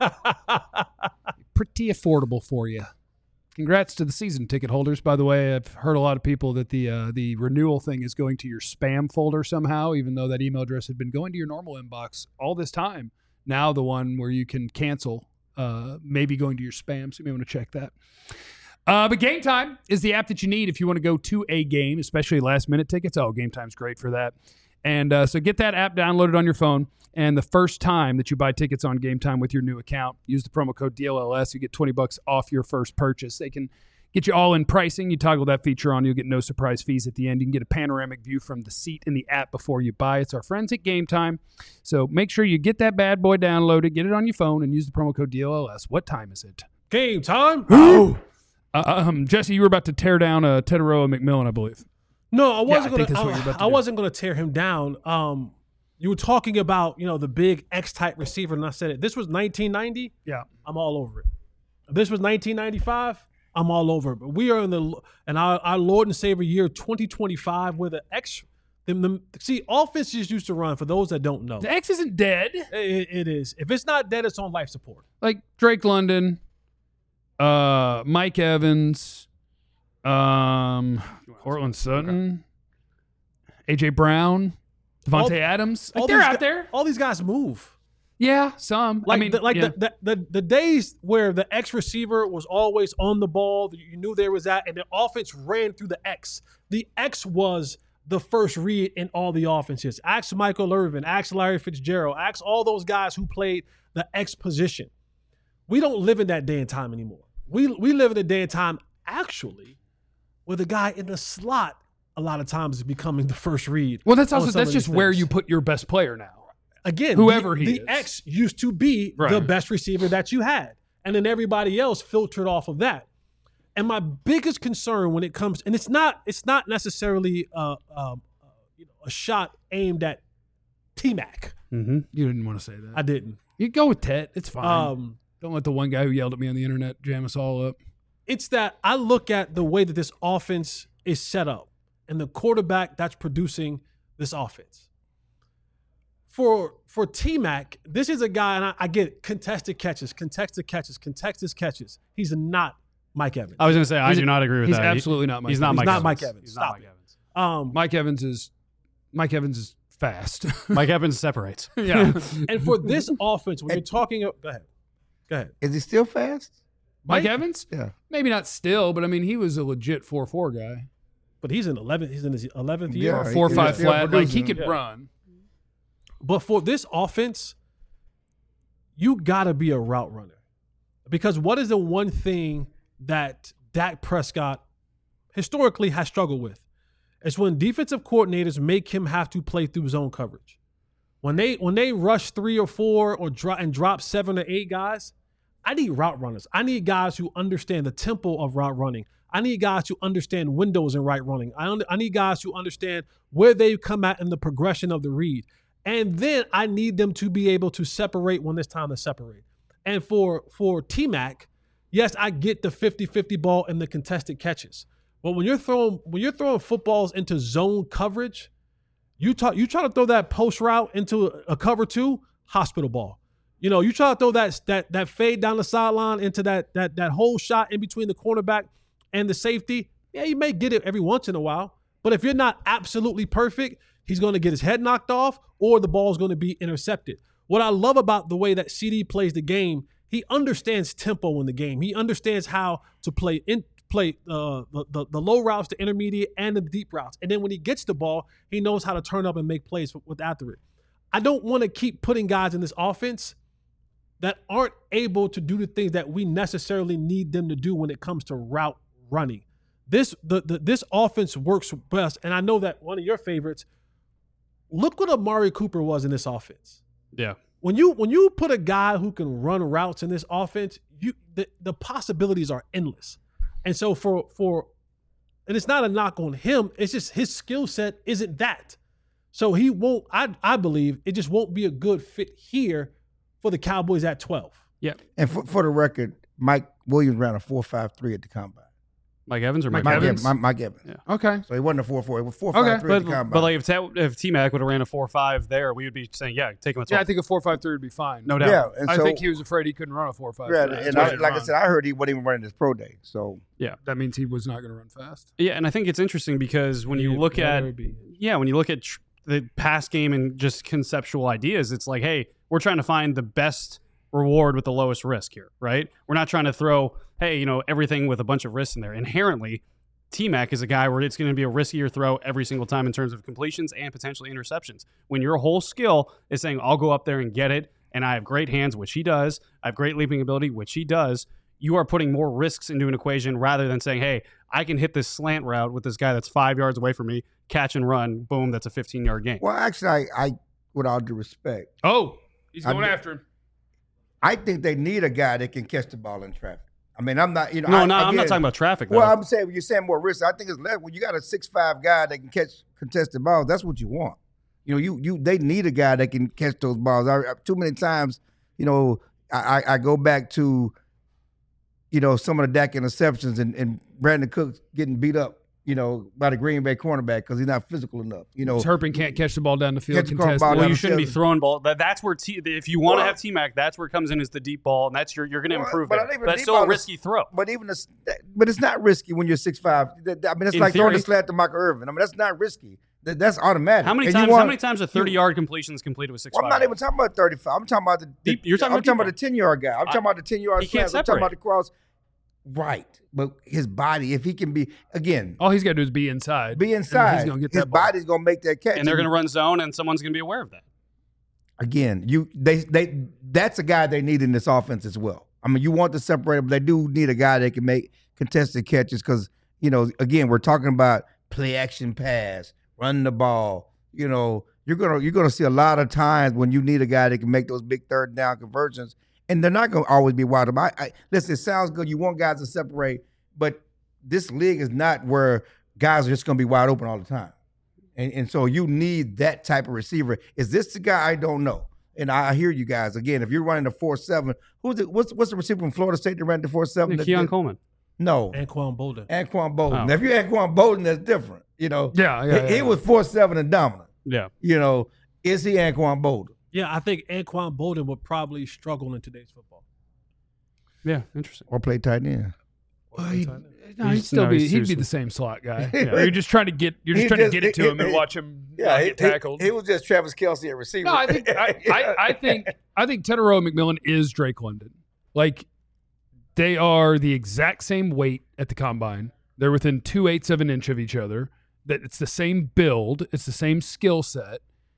you. Pretty affordable for you. Congrats to the season ticket holders. By the way, I've heard a lot of people that the uh, the renewal thing is going to your spam folder somehow, even though that email address had been going to your normal inbox all this time. Now the one where you can cancel uh, maybe going to your spam, so you may want to check that. Uh, but Game Time is the app that you need if you want to go to a game, especially last-minute tickets. Oh, Game Time's great for that. And uh, so get that app downloaded on your phone, and the first time that you buy tickets on Game Time with your new account, use the promo code D L L S. You get twenty bucks off your first purchase. They can get you all in pricing. You toggle that feature on, you'll get no surprise fees at the end. You can get a panoramic view from the seat in the app before you buy. It's our friends at Game Time. So make sure you get that bad boy downloaded, get it on your phone, and use the promo code D L L S. What time is it? Game time. Oh, uh, um, Jesse, you were about to tear down uh, Teteroa McMillan, I believe. No, I I wasn't think going that's what you're to. about to I do. wasn't going to tear him down. Um, you were talking about, you know, the big X-type receiver, and I said it. This was nineteen ninety. Yeah. I'm all over it. If this was nineteen ninety-five, I'm all over it. But we are in the and our, our Lord and Savior year twenty twenty-five, where the X. The, the, see, offenses used to run. For those that don't know, The X isn't dead. it, it is. If it's not dead, it's on life support. Like Drake London, uh, Mike Evans, um, Cortland Sutton, A J Brown, Devontae All- Adams. Like all they're these out gu- there. All these guys move. Yeah, some. Like I mean, the, like yeah. the, the, the the days where the X receiver was always on the ball, you knew there was that, and the offense ran through the X. The X was the first read in all the offenses. Ask Michael Irvin, ask Larry Fitzgerald, ask all those guys who played the X position. We don't live in that day and time anymore. We we live in a day and time actually where the guy in the slot a lot of times is becoming the first read. well, that's on also some that's of just these where things. you put your best player now. Again, Whoever the, he the is. X used to be the Right. best receiver that you had, and then everybody else filtered off of that. And my biggest concern when it comes, and it's not, it's not necessarily uh, uh, you know, a shot aimed at T-Mac. Mm-hmm. You didn't want to say that. I didn't. You go with Tet. It's fine. Um, Don't let the one guy who yelled at me on the internet jam us all up. it's that I look at the way that this offense is set up and the quarterback that's producing this offense. For for T-Mac, this is a guy, and I, I get it, contested catches, contested catches, contested catches. He's not Mike Evans. I was going to say, I He's- do not agree with He's that. He- absolutely not Mike He's not Evans. Mike not Evans. Mike Evans. He's Stop not Mike it. Evans. Um, Mike Evans is Mike Evans is fast. Mike Evans separates. yeah. and for this offense, when you're talking, go ahead, go ahead. Is he still fast? Mike Mike- Evans? Yeah. Maybe not still, but I mean, he was a legit four four guy. But he's in eleventh. He's in his eleventh year. Yeah, Or he- four he's five still flat. Like, he producing. could Yeah. run. But for this offense, you got to be a route runner. Because what is the one thing that Dak Prescott historically has struggled with? It's when defensive coordinators make him have to play through zone coverage. When they when they rush three or four or drop and drop seven or eight guys, I need route runners. I need guys who understand the tempo of route running. I need guys who understand windows in right running. I, un- I need guys who understand where they come at in the progression of the read. And then I need them to be able to separate when it's time to separate. And for for T-Mac, yes, I get the fifty-fifty ball and the contested catches. But when you're throwing when you're throwing footballs into zone coverage, you talk, you try to throw that post route into a, a cover two, hospital ball. You know, you try to throw that that that fade down the sideline into that that that whole shot in between the cornerback and the safety. Yeah, you may get it every once in a while, but if you're not absolutely perfect, he's going to get his head knocked off or the ball is going to be intercepted. What I love about the way that C D plays the game, he understands tempo in the game. He understands how to play in play uh, the, the the low routes, the intermediate, and the deep routes. And then when he gets the ball, he knows how to turn up and make plays with, with after it. I don't want to keep putting guys in this offense that aren't able to do the things that we necessarily need them to do when it comes to route running. This the, the this offense works best, and I know that one of your favorites. Look what Amari Cooper was in this offense. Yeah. When you when you put a guy who can run routes in this offense, you the, the possibilities are endless. And so for for and it's not a knock on him, it's just his skill set isn't that. So he won't I I believe it just won't be a good fit here for the Cowboys at twelve. Yeah. And for, for the record, Mike Williams ran a four five three at the combine. Mike Evans or Mike, Mike Mike Evans? Evans. Mike Evans. Yeah. Okay. So he wasn't a four four. It was four five three Okay. at But, the combine. but like if, Ta- if T-Mac would have ran a four five there, we would be saying, yeah, take him at twelve. Yeah, I think a four five three would be fine. No doubt. yeah, and I so, think he was afraid he couldn't run a four five. yeah, That's and why I, he didn't like I run. said, I heard he wasn't even running his pro day. So that means he was not going to run fast. Yeah, and I think it's interesting because when you It look better at be. yeah, when you look at tr- the pass game and just conceptual ideas, it's like, hey, we're trying to find the best reward with the lowest risk here, right? We're not trying to throw, hey, you know, everything with a bunch of risks in there. Inherently, T-Mac is a guy where it's going to be a riskier throw every single time in terms of completions and potentially interceptions. When your whole skill is saying, I'll go up there and get it, and I have great hands, which he does, I have great leaping ability, which he does, you are putting more risks into an equation rather than saying, hey, I can hit this slant route with this guy that's five yards away from me, catch and run, boom, that's a fifteen-yard gain. well, actually, I, I with all due respect, Oh, he's I going did- after him. I think they need a guy that can catch the ball in traffic. I mean, I'm not, you know, No, I, no, I'm not again, talking about traffic, though. Well, I'm saying when you're saying more risk, I think it's less. When you got a six five guy that can catch contested balls, that's what you want. You know, you you they need a guy that can catch those balls. I, I- too many times, you know, I, I I go back to, you know, some of the Dak interceptions and, and Brandon Cooks getting beat up, you know, by the Green Bay cornerback because he's not physical enough. You know, Turpin can't catch the ball down the field. Catch the contested. ball well, down you the shouldn't be field. throwing ball. That, that's where T, if you want to Well- have T-Mac, that's where it comes in is the deep ball, and that's your you're going to Well, improve but it. I think But the that's deep still a ball is- risky throw. But even the, but it's not risky when you're six five. I mean, it's In like throwing theory. the slat to Michael Irvin. I mean, that's not risky. That, that's automatic. How many And you times? want- how many times are thirty-yard completions completed with six Well, I'm five? not even talking about thirty-five. I'm talking about the, the Deep- you're talking I'm about talking deep about the ten-yard guy. I'm talking about the ten-yard he can't slants. I'm talking separate. about the cross. Right, but his body, if he can be again, All he's got to do is be inside. be And inside, he's gonna get his that ball. body's gonna make that catch. and they're going to run zone, and someone's going to be aware of that. again. You they they that's a guy they need in this offense as well. I mean, you want to separate, but they do need a guy that can make contested catches because you know, again, we're talking about play action pass, run the ball. You know, you're gonna you're gonna see a lot of times when you need a guy that can make those big third down conversions, and they're not gonna always be wide open. I, I, listen, it sounds good. You want guys to separate, but this league is not where guys are just gonna be wide open all the time, and and so you need that type of receiver. Is this the guy? I don't know. And I hear you guys again. If you're running the four seven, who's the, what's what's the receiver from Florida State that ran the four seven? Keon Coleman. No, Anquan Bolden. Anquan Bolden. Oh. Now, if you're Anquan Bolden, that's different. You know, Yeah, yeah, he, yeah, he yeah. was four seven and dominant. Yeah. You know, is he Anquan Bolden? Yeah, I think Anquan Bolden would probably struggle in today's football. Yeah. Interesting. Or play tight end? Or Well, play he'd, tight end. no, he'd He's- still no, be he's he'd be seriously- the same slot guy. Yeah. Or you're just trying to get you're just He trying just- to get it to he- him and he- watch him Yeah, not he, get tackled. he, he was just Travis Kelce at receiver. No, I think I, I, I think I think Teterow McMillan is Drake London. Like they are the exact same weight at the combine. They're within two eighths of an inch of each other. That it's the same build, it's the same skill set.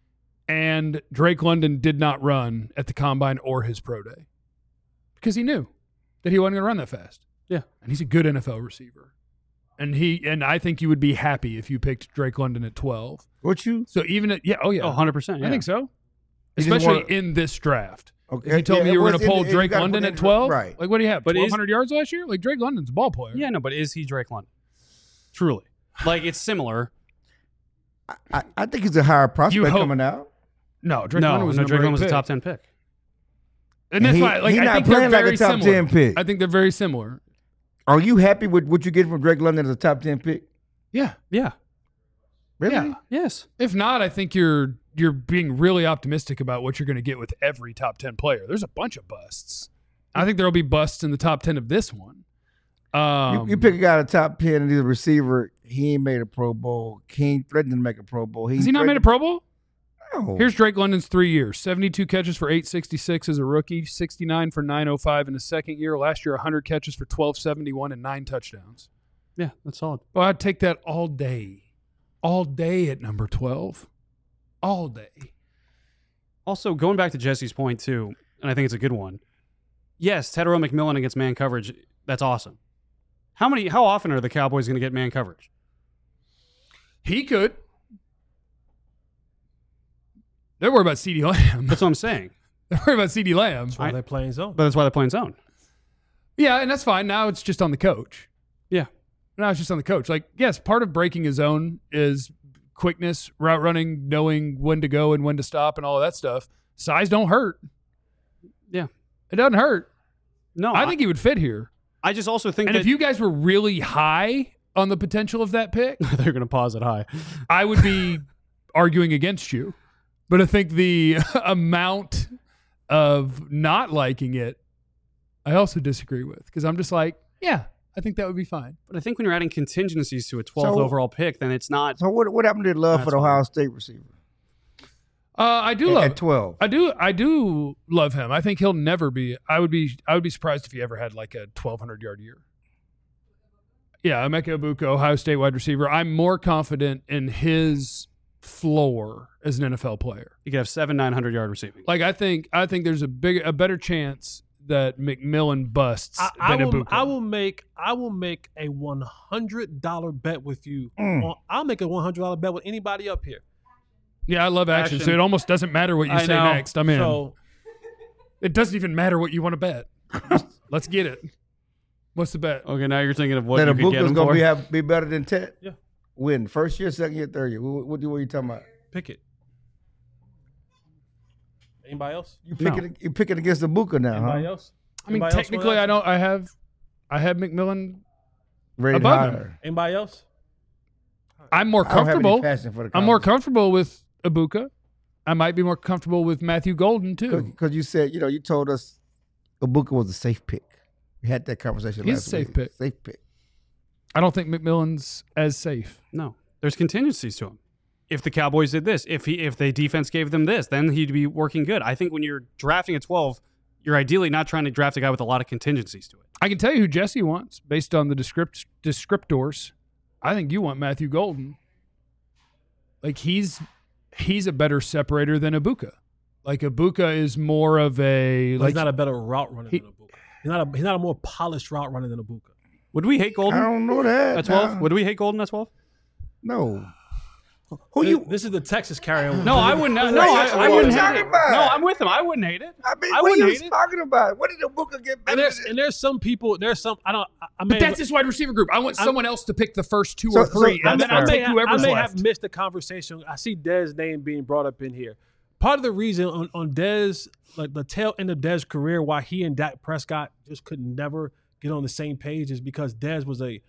And Drake London did not run at the combine or his pro day because he knew that he wasn't going to run that fast. Yeah. And he's a good N F L receiver. And he and I think you would be happy if you picked Drake London at twelve. Would you? So even at yeah, oh yeah. Oh, one hundred percent. Yeah. I think so. You just Especially wanna- in this draft. Okay. If you told Yeah, me you were well, going to pull it's in- Drake you gotta London put at in- twelve, right. like what do you have? But is- twelve hundred yards last year? Like Drake London's a ball player. Yeah, no, but is he Drake London? Truly. Like, it's similar. I, I, I think he's a higher prospect hope- coming out. No, Drake no, London was no, a Drake number London was eight a pick. top ten pick. And that's he, why, like, he I not think they're playing like very a top similar. ten pick. I think they're very similar. Are you happy with what you get from Drake London as a top ten pick? Yeah, Yeah. Really? yeah. Yes. If not, I think you're you're being really optimistic about what you're going to get with every top ten player. There's a bunch of busts. I think there'll be busts in the top ten of this one. Um, you, you pick a guy at the top ten and he's a receiver. He ain't made a Pro Bowl. He ain't threatened to make a Pro Bowl. Has he not made a Pro Bowl? No. Here's Drake London's three years: seventy-two catches for eight sixty-six as a rookie, sixty-nine for nine oh five in his second year. Last year, one hundred catches for twelve seventy-one and nine touchdowns. Yeah, that's solid. Well, I'd take that all day. All day at number twelve. All day. Also, going back to Jesse's point, too, and I think it's a good one. Yes, Tetairoa McMillan against man coverage, that's awesome. How many? How often are the Cowboys going to get man coverage? He could. Don't worry about CeeDee Lamb. That's what I'm saying. Don't worry about CeeDee Lamb. That's why they're playing zone. But that's why they're playing zone. Yeah, and that's fine. Now it's just on the coach. Yeah. Now it's just on the coach. Like, yes, part of breaking a zone is quickness, route running, knowing when to go and when to stop and all of that stuff. Size don't hurt. Yeah. It doesn't hurt. No. I think he would fit here. I just also think And that if you guys were really high on the potential of that pick, they're going to pause it high. I would be arguing against you. But I think the amount of not liking it, I also disagree with. Because I'm just like, yeah, I think that would be fine. But I think when you're adding contingencies to a twelfth So- overall pick, then it's not. So what what happened to love That's for the Ohio State receiver Uh, I do at, love at twelve? I do I do love him. I think he'll never be I would be I would be surprised if he ever had like a twelve hundred yard year. Yeah, Emeka Egbuka, Ohio State wide receiver. I'm more confident in his floor as an N F L player. You could have seven, nine hundred yard receiving. Like I think I think there's a big a better chance that McMillan busts I, I than will. Egbuka. I will make. I will make a one hundred dollar bet with you. Mm. On, I'll make a one hundred dollar bet with anybody up here. Yeah, I love action, Action. so it almost doesn't matter what you I say know. next. I'm in. So It doesn't even matter what you want to bet. Let's get it. What's the bet? Okay, now you're thinking of what That you could get Abuka's him gonna for. be have be better than Ted. Yeah. Win first year, second year, third year. What, what, what are you talking about? pick it. Anybody else? You picking you picking against Abuka now, Anybody huh? else? I mean, Anybody else technically, wanna- I don't. I have, I have McMillan. Rated Above him. higher. Anybody else? I'm more I don't have any comfortable. passion for the I'm more conversation. comfortable with Abuka. I might be more comfortable with Matthew Golden too. Because you said, you know, you told us Abuka was a safe pick. We had that conversation He's last a safe week. pick. Safe pick. I don't think McMillan's as safe. No, there's contingencies to him. If the Cowboys did this, if he if the defense gave them this, then he'd be working good. I think when you're drafting at twelve, you're ideally not trying to draft a guy with a lot of contingencies to it. I can tell you who Jesse wants based on the descript descriptors. I think you want Matthew Golden. Like he's he's a better separator than Abuka. Like Abuka is more of a But like he's not a better route runner he- than Abuka. He's not a. He's not a more polished route runner than Abuka. Would we hate I Golden don't know that. at twelve? now. Would we hate Golden at twelve? No. Who This, you? this is the Texas carry. No, I wouldn't. No, What I, are I you wouldn't hate talking it. about? No, I'm with him. I wouldn't hate it. I mean, I what are wouldn't you hate it. talking about? What did Abuka get And better there's than? and there's some people. There's some. I don't. I, I may But that's have, his wide receiver group. I want I'm- someone else to pick the first two So- or so three, I'm and then sorry. I'll I may, take have, I whoever's may left. have missed the conversation. I see Dez name being brought up in here. Part of the reason on, on Dez, like the tail end of Dez's career, why he and Dak Prescott just could never get on the same page is because Dez was a,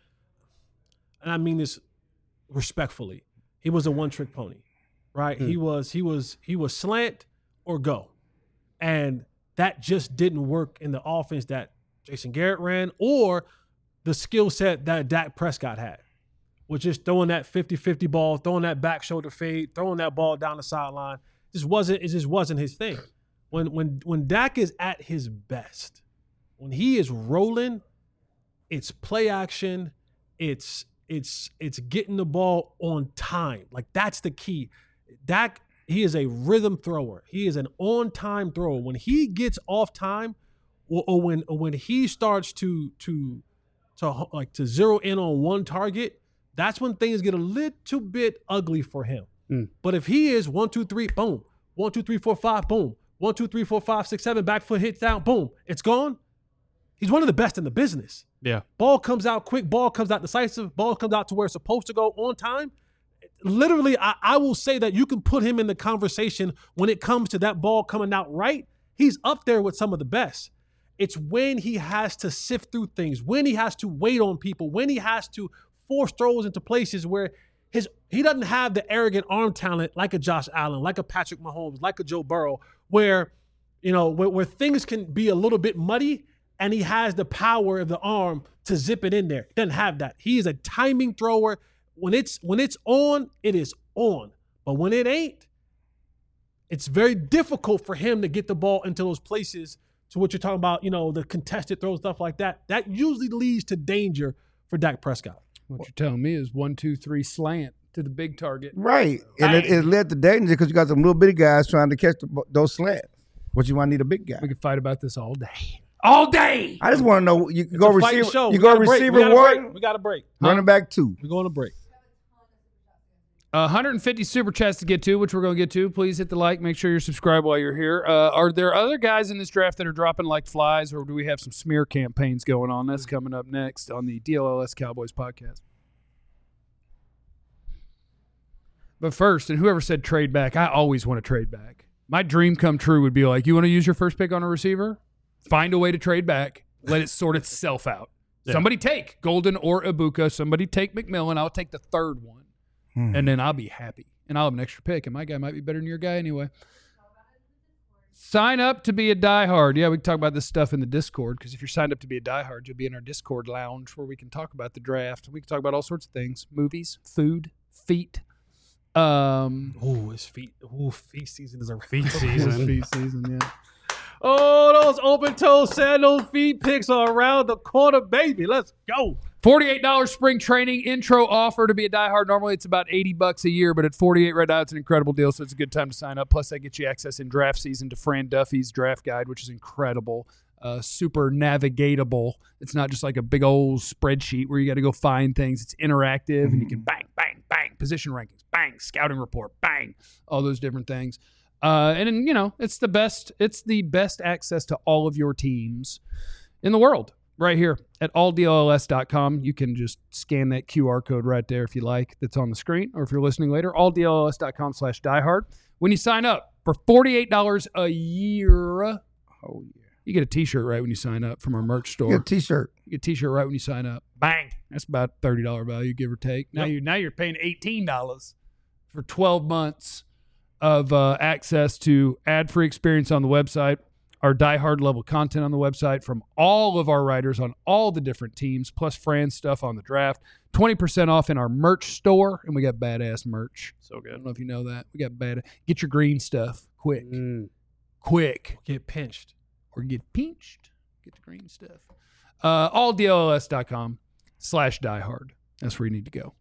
and I mean this respectfully, he was a one-trick pony, right? Hmm. He was he was he was slant or go, and that just didn't work in the offense that Jason Garrett ran or the skill set that Dak Prescott had, which is throwing that fifty-fifty ball, throwing that back shoulder fade, throwing that ball down the sideline. Just wasn't it just wasn't his thing. When when when Dak is at his best, when he is rolling, it's play action, it's it's it's getting the ball on time. Like that's the key. Dak, he is a rhythm thrower. He is an on-time thrower. When he gets off time, or, or when or when he starts to to to like to zero in on one target, that's when things get a little bit ugly for him. Mm. But if he is one, two, three, boom, one, two, three, four, five, boom, one, two, three, four, five, six, seven, back foot hits down, boom, it's gone. He's one of the best in the business. Yeah. Ball comes out quick, ball comes out decisive, ball comes out to where it's supposed to go on time. Literally, I, I will say that you can put him in the conversation when it comes to that ball coming out right. He's up there with some of the best. It's when he has to sift through things, when he has to wait on people, when he has to force throws into places where his he doesn't have the arrogant arm talent like a Josh Allen, like a Patrick Mahomes, like a Joe Burrow, where you know where, where things can be a little bit muddy, and he has the power of the arm to zip it in there. He doesn't have that. He is a timing thrower. When it's when it's on, it is on. But when it ain't, it's very difficult for him to get the ball into those places. To what you're talking about, you know, the contested throws, stuff like that. That usually leads to danger for Dak Prescott. What you're telling me is one, two, three slant to the big target. Right. And it, it led to danger because you got some little bitty guys trying to catch the, those slants. What you want to need a big guy. We could fight about this all day. All day. I just want to know, you It's go a fighting receiver, show. you We go gotta break. receiver We gotta one, break. We got to break. running back two. We're going to break. Uh, one hundred fifty super chats to get to, which we're going to get to. Please hit the like. Make sure you're subscribed while you're here. Uh, are there other guys in this draft that are dropping like flies, or do we have some smear campaigns going on? That's coming up next on the D L L S Cowboys podcast. But first, and whoever said trade back, I always want to trade back. My dream come true would be like, you want to use your first pick on a receiver? Find a way to trade back. Let it sort itself out. Yeah. Somebody take Golden or Ibuka. Somebody take McMillan. I'll take the third one. Hmm. And then I'll be happy. And I'll have an extra pick. And my guy might be better than your guy anyway. Sign up to be a diehard. Yeah, we can talk about this stuff in the Discord, because if you're signed up to be a diehard, you'll be in our Discord lounge where we can talk about the draft. We can talk about all sorts of things. Movies, food, feet. Um, Ooh, it's feet. Ooh, feet season is a Feet season. feet season, yeah. Oh, those open-toe sandal feet picks are around the corner, baby. Let's go. forty-eight dollars spring training intro offer to be a diehard. Normally it's about eighty bucks a year, but at forty-eight right now it's an incredible deal, so it's a good time to sign up. Plus that gets you access in draft season to Fran Duffy's draft guide, which is incredible. Uh, super navigatable. It's not just like a big old spreadsheet where you got to go find things. It's interactive, mm-hmm. and you can bang, bang, bang, position rankings, bang, scouting report, bang, all those different things. Uh, and then, you know, it's the best. It's the best access to all of your teams in the world right here at all D L L S dot com. You can just scan that Q R code right there if you like, that's on the screen, or if you're listening later, all D L L S dot com slash diehard. When you sign up for forty-eight dollars a year, oh yeah, you get a T-shirt right when you sign up from our merch store. You get a T-shirt. You get a T-shirt right when you sign up. Bang! That's about thirty dollars value, give or take. Now Yep. you now you're paying eighteen dollars for twelve months of uh, access to ad-free experience on the website, our diehard level content on the website from all of our writers on all the different teams, plus Fran stuff on the draft. twenty percent off in our merch store, and we got badass merch. So good. I don't know if you know that. We got bad. Get your green stuff quick, Mm. quick, Get pinched. or get pinched. Get the green stuff. Uh, all D L L S dot com slash diehard. That's where you need to go.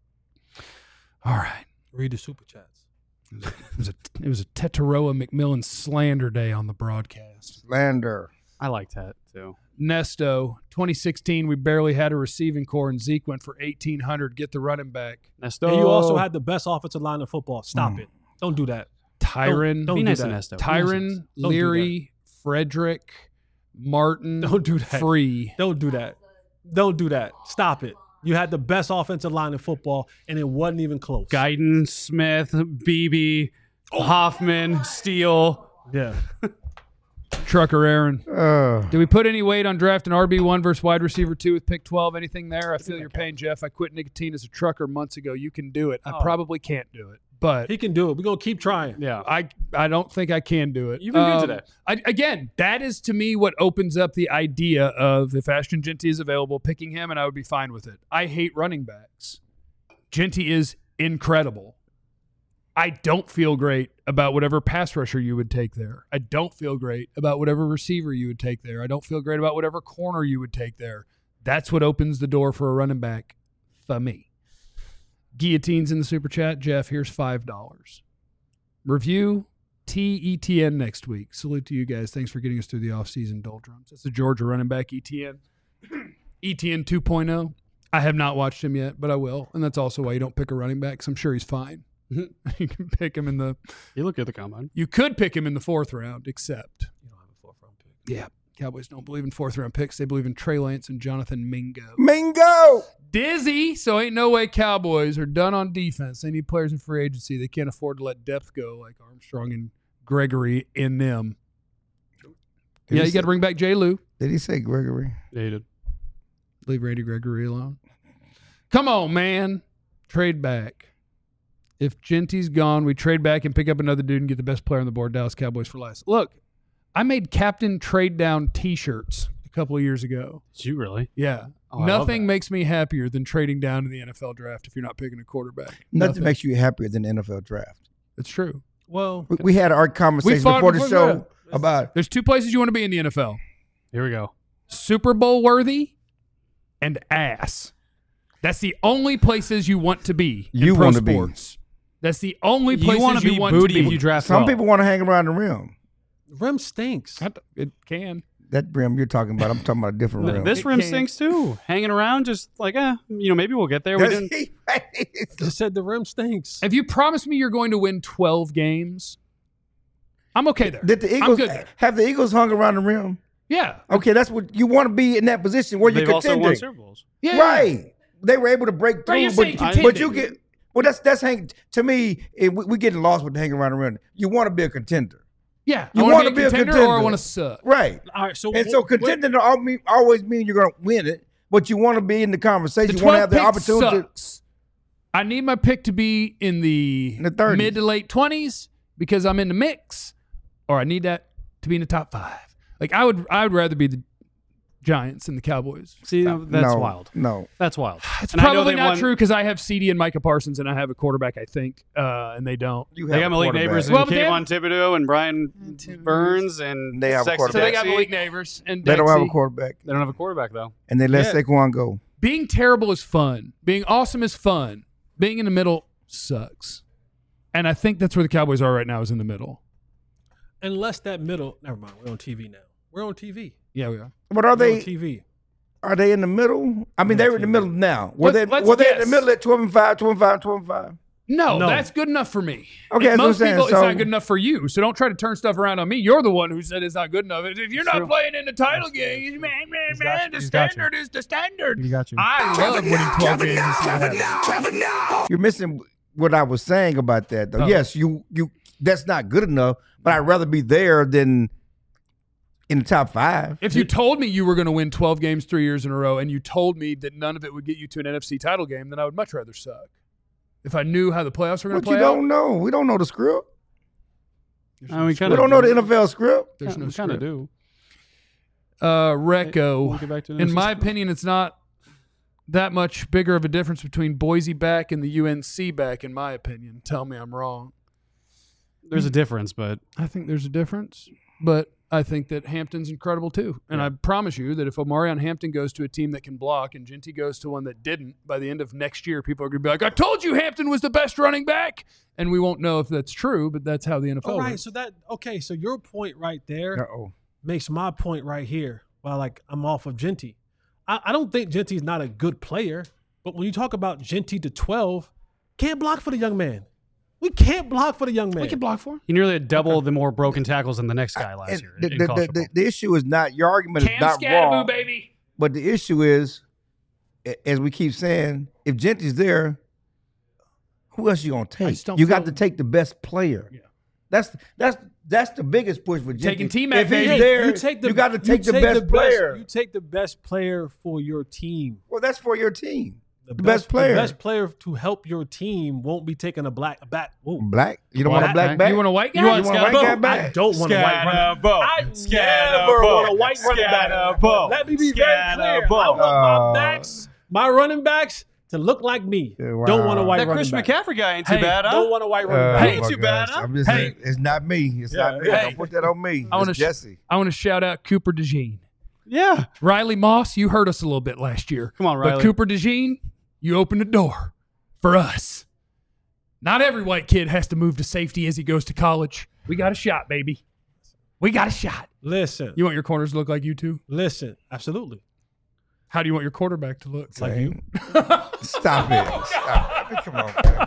All right. Read the super chats. It was a it was a Tetaroa McMillan slander day on the broadcast. Slander. I like that too. Nesto, twenty sixteen, we barely had a receiving core, and Zeke went for eighteen hundred. Get the running back. Nesto. And you also had the best offensive line in football. Stop Mm. it. Don't do that. Tyron, Don't Be do nice that. to Nesto. Tyron, Don't do Leary, Frederick, Martin, Don't do that. Free. Don't do that. Don't do that. Stop it. You had the best offensive line in football, and it wasn't even close. Guyton, Smith, Beebe, Hoffman, Steele. Yeah. Trucker Aaron. Uh, Did we put any weight on drafting R B one versus wide receiver two with pick twelve? Anything there? I feel your pain, Jeff. I quit nicotine as a trucker months ago. You can do it. I Oh. probably can't do it, but He can do it. We're going to keep trying. Yeah. I I don't think I can do it. You've been good Um, today. I, again, that is to me what opens up the idea of if Ashton Genty is available, picking him, and I would be fine with it. I hate running backs. Genty is incredible. I don't feel great about whatever pass rusher you would take there. I don't feel great about whatever receiver you would take there. I don't feel great about whatever corner you would take there. That's what opens the door for a running back for me. Guillotines in the super chat. Jeff, here's five dollars. Review T E T N next week. Salute to you guys. Thanks for getting us through the offseason doldrums. That's the Georgia running back, E T N. E T N two point oh. I have not watched him yet, but I will. And that's also why you don't pick a running back, because I'm sure he's fine. You can pick him in the You look good at the combine. – you could pick him in the fourth round, except You don't have a fourth round pick. – yeah, Cowboys don't believe in fourth round picks. They believe in Trey Lance and Jonathan Mingo. Mingo. Dizzy, so ain't no way Cowboys are done on defense. They need players in free agency. They can't afford to let depth go like Armstrong and Gregory in them. Did yeah, he you say- got to bring back J. Lou. Did he say Gregory? Yeah, you did. Leave Randy Gregory alone. Come on, man. Trade back. If Genty's gone, we trade back and pick up another dude and get the best player on the board, Dallas Cowboys for less. Look, I made captain trade down T-shirts a couple of years ago. Did you really? Yeah. Oh, I love Nothing that. makes me happier than trading down in the N F L draft if you're not picking a quarterback. Nothing makes you happier than the N F L draft. It's true. Well, We, we had our conversation fought before the before show that. about There's two places you want to be in the N F L. Here we go. Super Bowl worthy and ass. That's the only places you want to be in You pro want to be. sports. That's the only You places want to be want booty to if be. you draft Some well. people want to hang around the rim. Rim stinks. It can. That rim you're talking about, I'm talking about a different No, rim. this It rim can. stinks too. Hanging around, just like, eh, you know, maybe we'll get there. We That's- didn't. Just said the rim stinks. If you promise me you're going to win twelve games, I'm okay there. Did the I'm Eagles good there. have the Eagles hung around the rim? Yeah. Okay, that's what you want to be in that position where They've you're also won contending. Super Bowls. Yeah. Right. They were able to break through, Right, you're but, saying but contending. you get well. That's that's hang to me. It, we, we getting lost with the hanging around the rim. You want to be a contender, Yeah. You I wanna want to be be a a contender, or I contender. want to suck. right? All right, so And so what- contending don't al- mean- always mean you're going to win it, but you want to be in the conversation. The You want to have twelfth the pick opportunity. sucks. I need my pick to be in the, In the thirties. mid to late twenties because I'm in the mix, or I need that to be in the top five. Like I would, I would rather be the Giants and the Cowboys. See, that's no, wild. No, That's wild. It's And I know probably they not won- true because I have C D and Micah Parsons, and I have a quarterback, I think, uh, and they don't. you They have got a Malik quarterback. Neighbors and Well, but they Kayvon Thibodeau and Brian Burns and They have a Sexy quarterback. So they got Dexy. Malik Neighbors and They don't have a Dexy. quarterback, They don't have a quarterback though. and they let Yeah. Saquon go. Being terrible is fun. Being awesome is fun. Being in the middle sucks. And I think that's where the Cowboys are right now, is in the middle. unless that middle, never mind. We're on T V now. We're on T V. Yeah, we are. But are We're on they? T V. Are they in the middle? I mean, they were in the middle now. Were Let's- they? let's Were they in guess. the middle at twelve and five, twelve and five, twelve and five? No, No. that's good enough for me. Okay, And that's what I'm most saying. people, So- it's not good enough for you. So don't try to turn stuff around on me. You're the one who said it's not good enough. If you're not true. playing in the title game, man, man, got man, you. the He's got you. standard is the standard. You got you. I love winning twelve games. and see what happens. You're missing what I was saying about that, though. Oh. Yes, you you. That's not good enough. But I'd rather be there than in the top five. If you told me you were going to win twelve games three years in a row, and you told me that none of it would get you to an N F C title game, then I would much rather suck. If I knew how the playoffs were going But to you play out, don't know. We don't know the script. there's Uh, no we script. kinda We don't know the N F L script. There's no we kind of script. do. Uh, We'll Recco. get back to In my opinion, it's not that much bigger of a difference between Boise back and the U N C back, in my opinion. Tell me I'm wrong. there's a difference, but I think there's a difference, but I think that Hampton's incredible too. And I promise you that if Omarion Hampton goes to a team that can block and Genty goes to one that didn't, by the end of next year, people are going to be like, I told you Hampton was the best running back. And we won't know if that's true, but that's how the N F L All right, works. so that okay, so your point right there Uh-oh. makes my point right here. Well, like I'm off of Genty. I, I don't think Genty's not a good player, but when you talk about Genty to twelve, can't block for the young man. We can't block for the young man. We can block for him. he nearly had double the more broken tackles than the next guy last And year. the, in the, college the, the, football. the issue is not your argument is Cam not Scattaboo, wrong, baby. but the issue is, a- as we keep saying, if Genty's there, who else you gonna take? just don't You got feel- to take the best player. Yeah. That's that's that's the biggest push for Genty. Taking T-Mac, If he's baby. there, you take the you got to take you the best player. You take the best player for your team. Well, that's for your team. The, best player. The best player to help your team won't be taking a black a back. Whoa. Black. You don't want a Black black guy. back. You want a white guy? You want a white guy I back? don't want a white running back. I never want a white running back. Let me be very clear. I want Uh, my backs, my running backs to look like me. Yeah, wow. Don't want a white that running Chris back. McCaffrey guy ain't too Hey, bad, huh? Don't want a white running Uh, back. Ain't my too bad, gosh. huh? I'm just Hey. saying, it's not me. It's Yeah, not me. hey. Don't put that on me. I wanna It's sh- Jesse. I want to shout out Cooper DeJean. Yeah. Riley Moss, you hurt us a little bit last year. Come on, Riley. But Cooper DeJean, you opened the door for us. Not every white kid has to move to safety as he goes to college. We got a shot, baby. We got a shot. Listen, You want your corners to look like you too? listen, absolutely. How do you want your quarterback to look? Like you. Stop it. Stop it. Come on, man.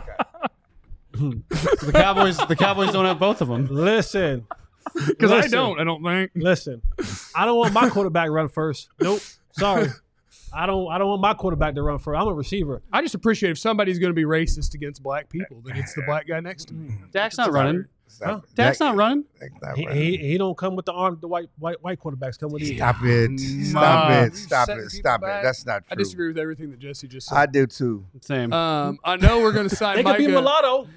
The Cowboys the Cowboys don't have both of them. Listen, Because I Listen. don't. I don't think. listen. I don't want my quarterback to run first. Nope. Sorry. I don't. I don't want my quarterback to run first. I'm a receiver. I just appreciate if somebody's going to be racist against black people, that it's the black guy next to me. Dak's not running. Stop it. Dak's not running. That's not He, right. he, he don't come with the arm. The white white white quarterbacks come with these. Stop it. Stop Ma. it. You Stop setting it. people Stop back? it. That's not I true. disagree with everything that Jesse just I said. do too. Same. Um, I know we're going to sign They could be Micah. mulatto.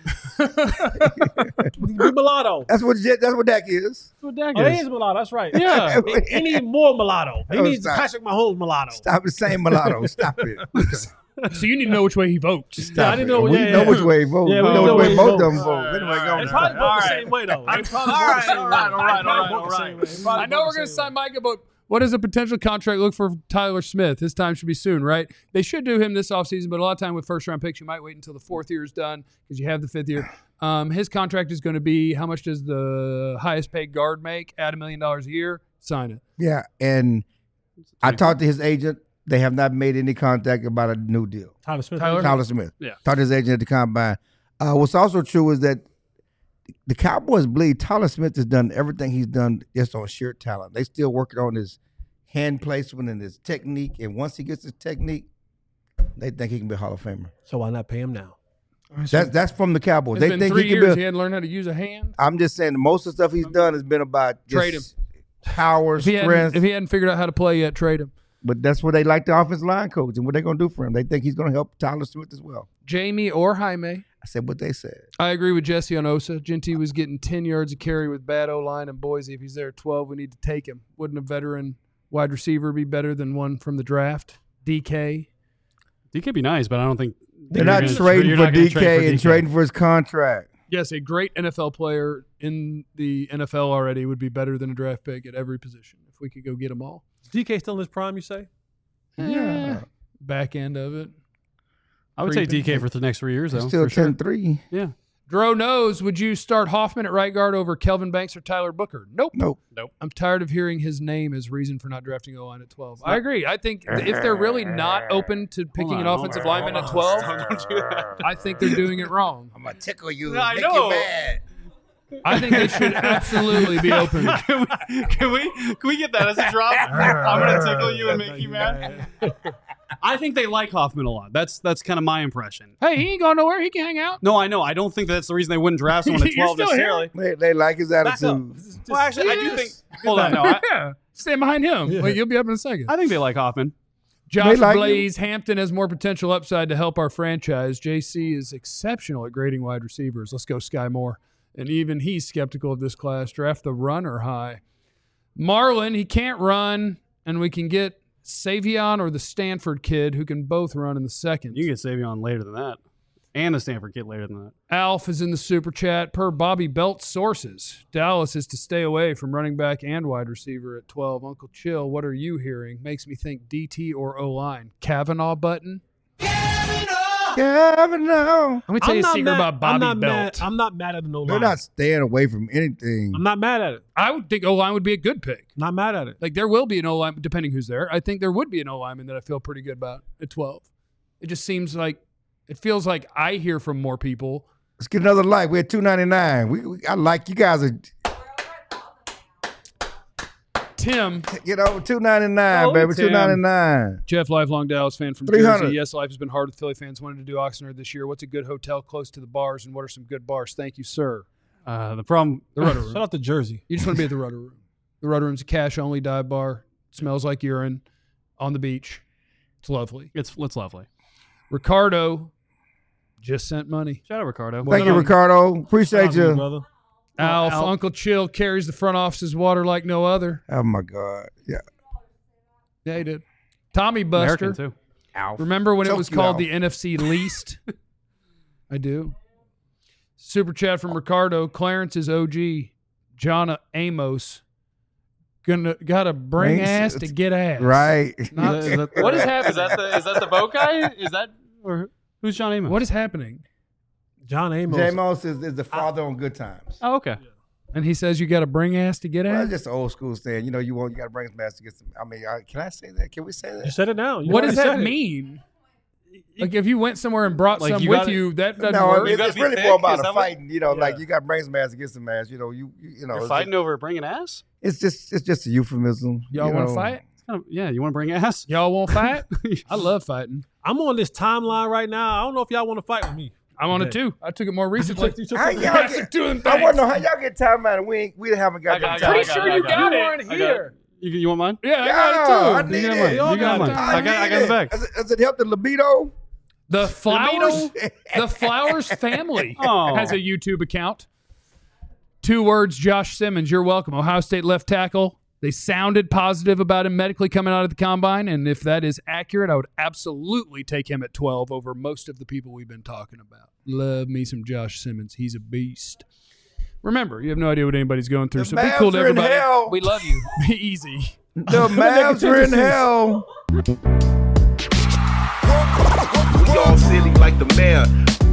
be mulatto. That's what Je- that's what Dak is. That's what Dak Oh, he is. is mulatto. That's right. Yeah. He, he needs more mulatto. He Oh, needs stop. Patrick Mahomes mulatto. Stop it saying mulatto. Stop it. So you need to know which way he votes. Stop Yeah, I it. didn't know- We yeah, know yeah. which way he votes. Yeah, we we know know which way he both votes. of them vote. All right, Anyway, all go right. They on. probably vote All the right. same way though. They probably All vote the right, same all way. right, all right, They probably all right, vote the all same right. way. They probably I know vote we're the going to same sign way. Micah, but What does a potential contract look for Tyler Smith? His time should be soon, right? They should do him this offseason, but a lot of time with first-round picks, you might wait until the fourth year is done because you have the fifth year. Um, his contract is going to be, how much does the highest-paid guard make? Add a million dollars a year, sign it. Yeah, and I talked to his agent. They have not made any contact about a new deal. Tyler Smith. Tyler? Tyler Smith. Yeah. Talked to his agent at the combine. Uh, what's also true is that the Cowboys believe Tyler Smith has done everything he's done just on sheer talent. They still working on his hand placement and his technique. And once he gets his technique, they think he can be a Hall of Famer. So why not pay him now? That's that's from the Cowboys. It's They been think three he can years. be. He A, hadn't learned how to use a hand. I'm just saying most of the stuff he's done has been about just Trade him. power, If he, hadn't, strength. if he hadn't figured out how to play yet, trade him. But that's what they like the offensive line coach and what they're going to do for him. They think he's going to help Tyler Smith as well. Jamie or Jaime. I said what they said. I agree with Jesse on Osa. Genty was getting ten yards of carry with bad O-line and Boise. If he's there at twelve, we need to take him. Wouldn't a veteran wide receiver be better than one from the draft? D K. D K be nice, but I don't think They're you're not gonna- trading you're for not gonna D K trade for and D K. trading for his contract. Yes, a great N F L player in the N F L already would be better than a draft pick at every position if we could go get them all. D K still in his prime, you say? Yeah. Back end of it. I would say D K for the next three years, though. Still for sure. ten three. Yeah. Dro knows, would you start Hoffman at right guard over Kelvin Banks or Tyler Booker? Nope. Nope. I'm tired of hearing his name as reason for not drafting O-line at twelve. I agree. I think if they're really not open to picking on, an hold offensive on, lineman hold at on. twelve, Don't do that. I think they're doing it wrong. I'm gonna tickle you. Yeah, I make know. you mad. I think they should absolutely be open. can, we, can we can we get that as a drop? I'm gonna tickle you and make you mad. I think they like Hoffman a lot. That's that's kind of my impression. Hey, he ain't going nowhere. He can hang out. No, I know. I don't think that's the reason they wouldn't draft someone at You're twelve still necessarily. They, they like his Back up. attitude. Well, actually, I do think. Hold on, no, I, Yeah. Stand behind him. Yeah. Wait, you'll be up in a second. I think they like Hoffman. Josh like Blaze, Hampton has more potential upside to help our franchise. J C is exceptional at grading wide receivers. Let's go Sky Moore. And even he's skeptical of this class. Draft the runner high. Marlon, he can't run, and we can get Savion or the Stanford kid who can both run in the second. You can get Savion later than that, and the Stanford kid later than that. Alf is in the super chat. Per Bobby Belt sources, Dallas is to stay away from running back and wide receiver at twelve. Uncle Chill, what are you hearing? Makes me think D T or O-line. Kavanaugh button? Kevin, no. Let me tell I'm you a not secret mad- about I'm Bobby not Belt. Mad, I'm not mad at the no They're line. not staying away from anything. I'm not mad at it. I would think O-line would be a good pick. Not mad at it. Like, there will be an O-line, depending who's there. I think there would be an O-lineman that I feel pretty good about at twelve. It just seems like, it feels like I hear from more people. Let's get another like. We're at two ninety-nine. We, we I like you guys are Tim, you know two ninety-nine, Oh, baby. Tim. two ninety-nine. Jeff, lifelong Dallas fan from three hundred. Jersey. Yes, life has been hard with Philly fans. Wanted to do Oxnard this year. What's a good hotel close to the bars, and what are some good bars? Thank you, sir. Uh, the problem. The Rudder Shout Room. out to Jersey. You just want to be at the Rudder Room. The Rudder Room's a cash-only dive bar. Smells like urine on the beach. It's lovely. It's it's lovely. Ricardo just sent money. Shout out Ricardo. Thank you, Ricardo. Appreciate Shout out to you. brother. Alf, Alf. Uncle Chill carries the front office's water like no other. Oh my God. Yeah. Yeah, he did. Tommy Buster. American too. Remember when it Choke was you called out. the N F C least? I do. Super chat from Ricardo. Clarence is O G. John Amos. Gonna gotta bring Bring ass s- to get ass. Right. Not- Is that- what is happening? Is that the is that the boat guy? Is that or who's John Amos? What is happening? John Amos. J-Mos is, is the father on Good Times. Oh, okay. And he says you gotta bring ass to get Well, ass. that's just an old school saying. You know, you want you got to bring some ass to get some. I mean, I, can I say that? Can we say You that? said it now. You What does already that said it. mean? Like if you went somewhere and brought Like, some you with gotta- you, that doesn't No, I work. mean, gotta it's be really thick? more Is about that a what- fighting. You know, Yeah. like you got to bring some ass to get some ass. You know, you you, you know, You're it's fighting just, over bringing ass? it's just it's just a euphemism. Y'all you want to know. fight? Kind of- yeah, you want to bring ass? Y'all want to fight? I love fighting. I'm on this timeline right now. I don't know if y'all want to fight with me. I'm on it Okay. too. I took it more recently. You took- How you took- y'all I took get, two of them I things. want to know how y'all get time out and we ain't, we haven't got I got- that I got- time. I Pretty got- sure I you got- got I it. got- weren't I got- here. You, you want mine? Yeah, I Yeah, got I it too. need You got it. mine. We all You got got mine. time. I got I got need the back. Does it, does it help the libido? The Flowers, Libido? the Flowers family Oh. has a YouTube account. Two words, Josh Simmons. You're welcome. Ohio State left tackle. They sounded positive about him medically coming out of the combine, and if that is accurate, I would absolutely take him at twelve over most of the people we've been talking about. Love me some Josh Simmons. He's a beast. Remember, you have no idea what anybody's going through, The so be cool to Mavs are in everybody. hell. We love you. Be easy. The Mavs are in hell. We all silly like the mayor.